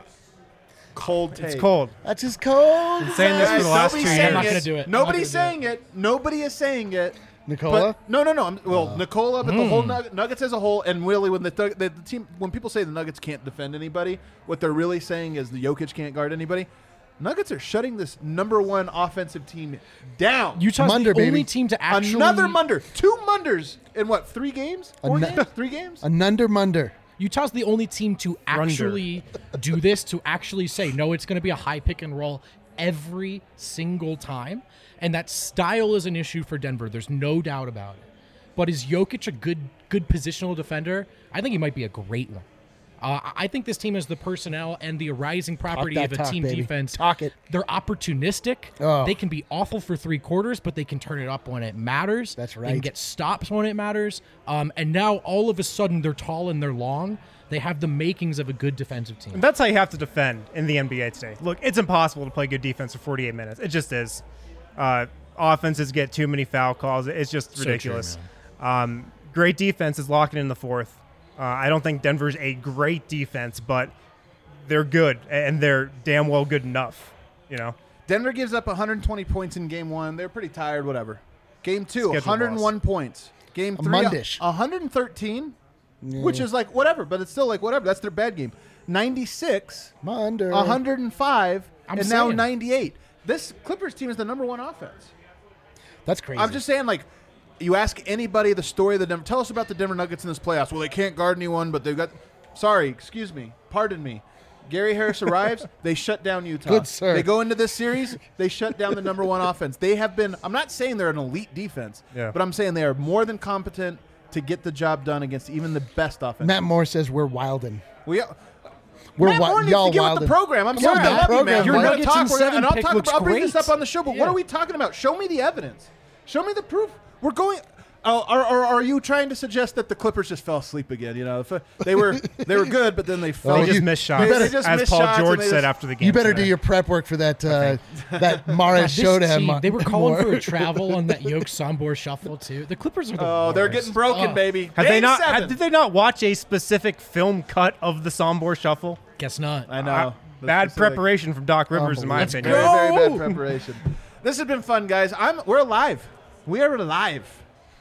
Cold take. it's cold. That's just cold. Been saying this for the last two Nobody's years. saying I'm not it. gonna do it. I'm not Nobody's gonna saying it. Nobody is saying it. Nicola? But, no, no, no. I'm, well, Nicola, but the whole Hmm. Nug- Nuggets as a whole, and really, when the, the, the team, when people say the Nuggets can't defend anybody, what they're really saying is the Jokic can't guard anybody. Nuggets are shutting this number one offensive team down. Utah's Munder, the only baby. team to actually Another Munder, two Munders in what? Three games? Four nu- games? Three games? A Nunder Munder. Utah's the only team to actually do this, to actually say, no, it's going to be a high pick and roll every single time. And that style is an issue for Denver. There's no doubt about it. But is Jokic a good good positional defender? I think he might be a great one. Uh, I think this team has the personnel and the rising property that of a talk, team baby. defense. Talk it. They're opportunistic. Oh. They can be awful for three quarters, but they can turn it up when it matters. That's They can right. get stops when it matters. Um, and now all of a sudden they're tall and they're long. They have the makings of a good defensive team. And that's how you have to defend in the N B A today. Look, it's impossible to play good defense for forty-eight minutes. It just is. Uh, offenses get too many foul calls. It's just So true, ridiculous. um, great defense is locking in the fourth. Uh, I don't think Denver's a great defense, but they're good, and they're damn well good enough. You know, Denver gives up one hundred twenty points in game one. They're pretty tired, whatever. Game two, Scheduled one hundred one loss. points. Game A three, Mondish. one hundred thirteen, which is like whatever, but it's still like whatever. That's their bad game. ninety-six, Munder. one hundred five, I'm and now saying. ninety-eight. This Clippers team is the number one offense. That's crazy. I'm just saying, like, you ask anybody the story of the Denver. Tell us about the Denver Nuggets in this playoffs. Well, they can't guard anyone, but they've got. Sorry, excuse me, pardon me. Gary Harris arrives. They shut down Utah. Good sir. They go into this series. They shut down the number one offense. They have been. I'm not saying they're an elite defense, Yeah. but I'm saying they are more than competent to get the job done against even the best offense. Matt Moore says we're wildin'. we. We're Matt wi- Moore needs y'all to get with wildin'. the program. I'm Come sorry, on, I Matt. love you, Program, man. Your We're gonna Nuggets talk. in We're gonna, seven and I'll pick talk. looks About, I'll bring this great. up on the show. But what Yeah. are we talking about? Show me the evidence. Show me the proof. We're going. Oh, are, are, are you trying to suggest that the Clippers just fell asleep again? You know, if, uh, they were they were good, but then they fell. Oh, they just you- missed you shots, better- They just as missed Paul shots and George they said just- after the game. You better today. do your prep work for that uh, that Mares This show to him. team, they were calling Moore. for a travel on that Yoke Sambor shuffle too. The Clippers are the Oh, they're worst. getting broken, Oh, baby. Have they Game not? seven. Have, did they not watch a specific film cut of the Sombor Shuffle? Guess not. I know. Uh, The bad specific- preparation from Doc Rivers, in my Let's opinion. Very, very bad Go! preparation. This has been fun, guys. I'm. We're alive. We are alive.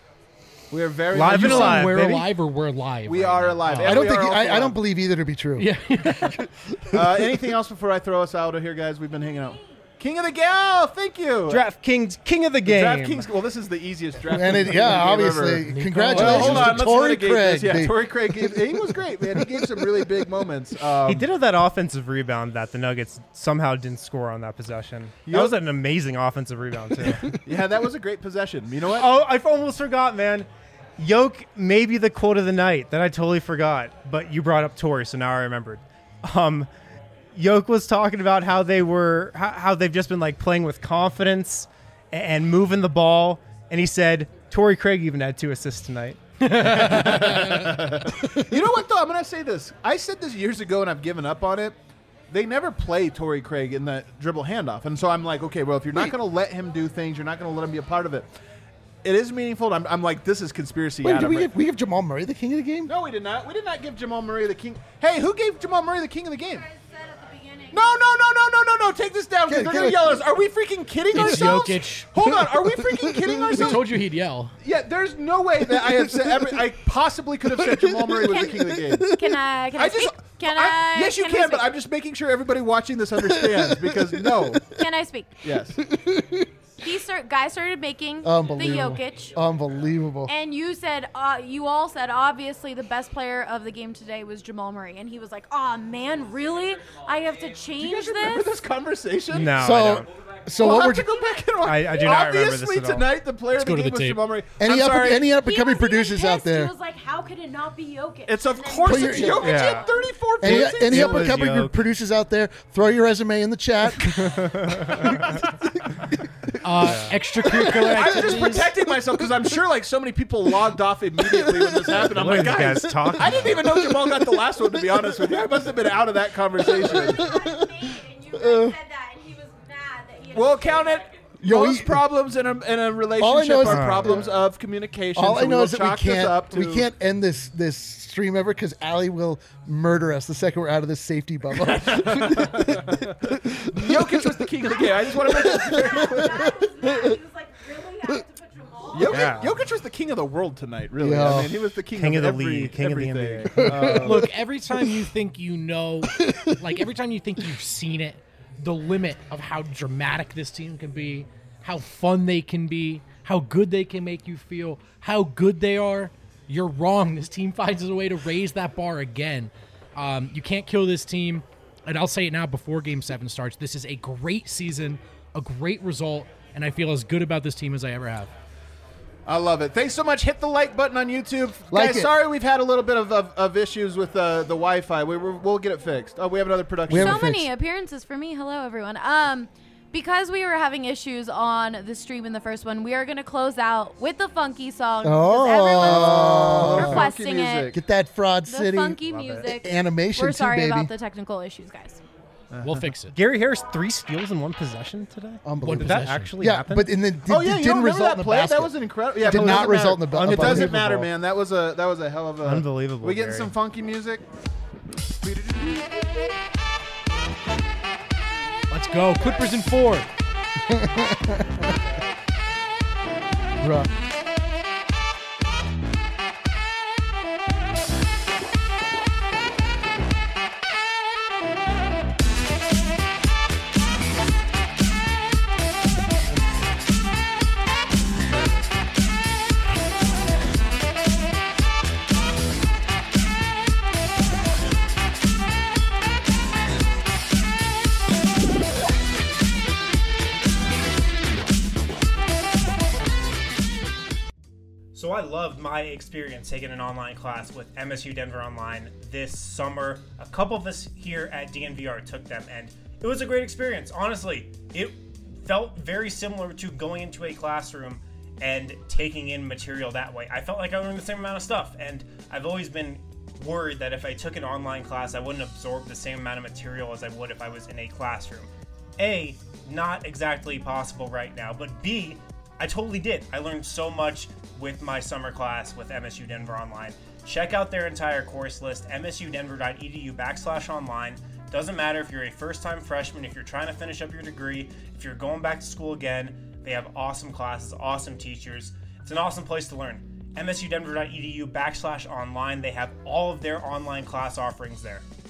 We are very Live much and You alive, saying we're baby. alive or we're live? We right are now? alive. Oh. And I don't we think are I, I also- don't believe either to be true. Yeah. Uh, anything else before I throw us out of here, guys? We've been hanging out. King of the Gal, thank you. DraftKings King of the Game. DraftKings. Well, this is the easiest draft. And it, yeah, obviously, Nico. congratulations Well, hold on. to Let's Torrey litigate Craig. this. Yeah, baby. Torrey Craig. Gave, he was great, man. He gave some really big moments. Um, He did have that offensive rebound that the Nuggets somehow didn't score on that possession. That was an amazing offensive rebound too. Yeah, that was a great possession. You know what? Oh, I almost forgot, man. Yoke may be the quote of the night that I totally forgot, but you brought up Torrey, so now I remembered. Um, Yoke was talking about how they were, how, how they've just been like playing with confidence and, and moving the ball, and he said Torrey Craig even had two assists tonight. You know what, though? I'm going to say this. I said this years ago, and I've given up on it. they never play Torrey Craig in the dribble handoff. And so I'm like, okay, well, if you're not going to let him do things, you're not going to let him be a part of it. It is meaningful. I'm, I'm like, this is conspiracy. Wait, did Adam, we right? give, we give Jamal Murray the king of the game? No, we did not. We did not give Jamal Murray the king. Hey, who gave Jamal Murray the king of the game? No, no, no, no, no, no, no. Take this down because Get- they're get going to it. yell at us. Are we freaking kidding It's ourselves? Jokic. Hold on. Are we freaking kidding We ourselves? told you he'd yell. Yeah, there's no way that I have said every, I possibly could have said Jamal Murray was the king of the game. Can I? Can I, I just, speak? Can I? yes, you can, can, I but speak? I'm just making sure everybody watching this understands because no. Can I speak? Yes. He start, guy started making the Unbelievable. Jokic. Unbelievable. And you said, uh, you all said, obviously the best player of the game today was Jamal Murray, and he was like, "Oh man, really? I have to change Do you guys remember this." this conversation? No, I So, don't. so we'll what have we're to go back and watch. I- I do not remember this Obviously at all. tonight the player of go the to game the was tape. Jamal Murray. any I'm up sorry. any up and He coming was even producers out pissed. there? He was like, "How could it not be Jokic?" It's of And then course he it's was Jokic. like, He Yeah. had thirty-four Any, points. any It up and was coming Jokic. producers out there? Throw your resume in the chat. Uh, Extracurricular I was just activities. protecting myself because I'm sure like so many people logged off immediately when this happened. I'm What like, are these guys, guys talking I didn't even know Jamal got the last one. To be honest with you, I must have been out of that conversation. And you guys said that, and he was mad that he had We'll to count say it. that. Yo, Most he- problems in a, in a All I relationship know is are that- problems of communication. All so I we know will is that we chalk this can't up to, we can't end this this stream ever because Allie will murder us the second we're out of this safety bubble. Jokic was the king of the game. I just want to make it very clear. He was like, "Really? I have to put Jamal?" Jokic, Yeah. Jokic was the king of the world tonight. Really, Yeah. I mean, he was the king, King of, of the every, league, king of the N B A. everything. Uh, Look, every time you think you know, like every time you think you've seen it, the limit of how dramatic this team can be, how fun they can be, how good they can make you feel, how good they are, you're wrong. This team finds a way to raise that bar again. Um, you can't kill this team. And I'll say it now before Game seven starts. This is a great season, a great result, and I feel as good about this team as I ever have. I love it. Thanks so much. Hit the like button on YouTube. Like Guys, it. sorry we've had a little bit of, of, of issues with uh, the Wi-Fi. We, we're, we'll get it fixed. Oh, we have another production. We have So it fixed. many appearances for me. Hello, everyone. Um, because we were having issues on the stream in the first one, we are going to close out with the funky song. 'cause Oh. everyone's Funky requesting music. it. Get that Fraud The City funky music. animation We're too, sorry baby. about the technical issues, guys. We'll fix it. Gary Harris three steals in one possession today. Unbelievable. Did that possession. actually yeah, happen? but in the did, Oh yeah, it you didn't don't remember result that in the play? basket. That was an incredible. Yeah, Did but it not doesn't result matter. in the- It doesn't Unbelievable. matter, man. That was a that was a hell of a Unbelievable, We getting Gary. some funky music. Let's go. Clippers in four. Bruh. So I loved my experience taking an online class with M S U Denver Online this summer. A couple of us here at D N V R took them, and it was a great experience. Honestly, it felt very similar to going into a classroom and taking in material that way. I felt like I learned the same amount of stuff, and I've always been worried that if I took an online class, I wouldn't absorb the same amount of material as I would if I was in a classroom. A, not exactly possible right now, but B, I totally did. I learned so much with my summer class with M S U Denver Online. Check out their entire course list, msudenver.edu backslash online. Doesn't matter if you're a first-time freshman, if you're trying to finish up your degree, if you're going back to school again, they have awesome classes, awesome teachers. It's an awesome place to learn. msudenver.edu backslash online. They have all of their online class offerings there.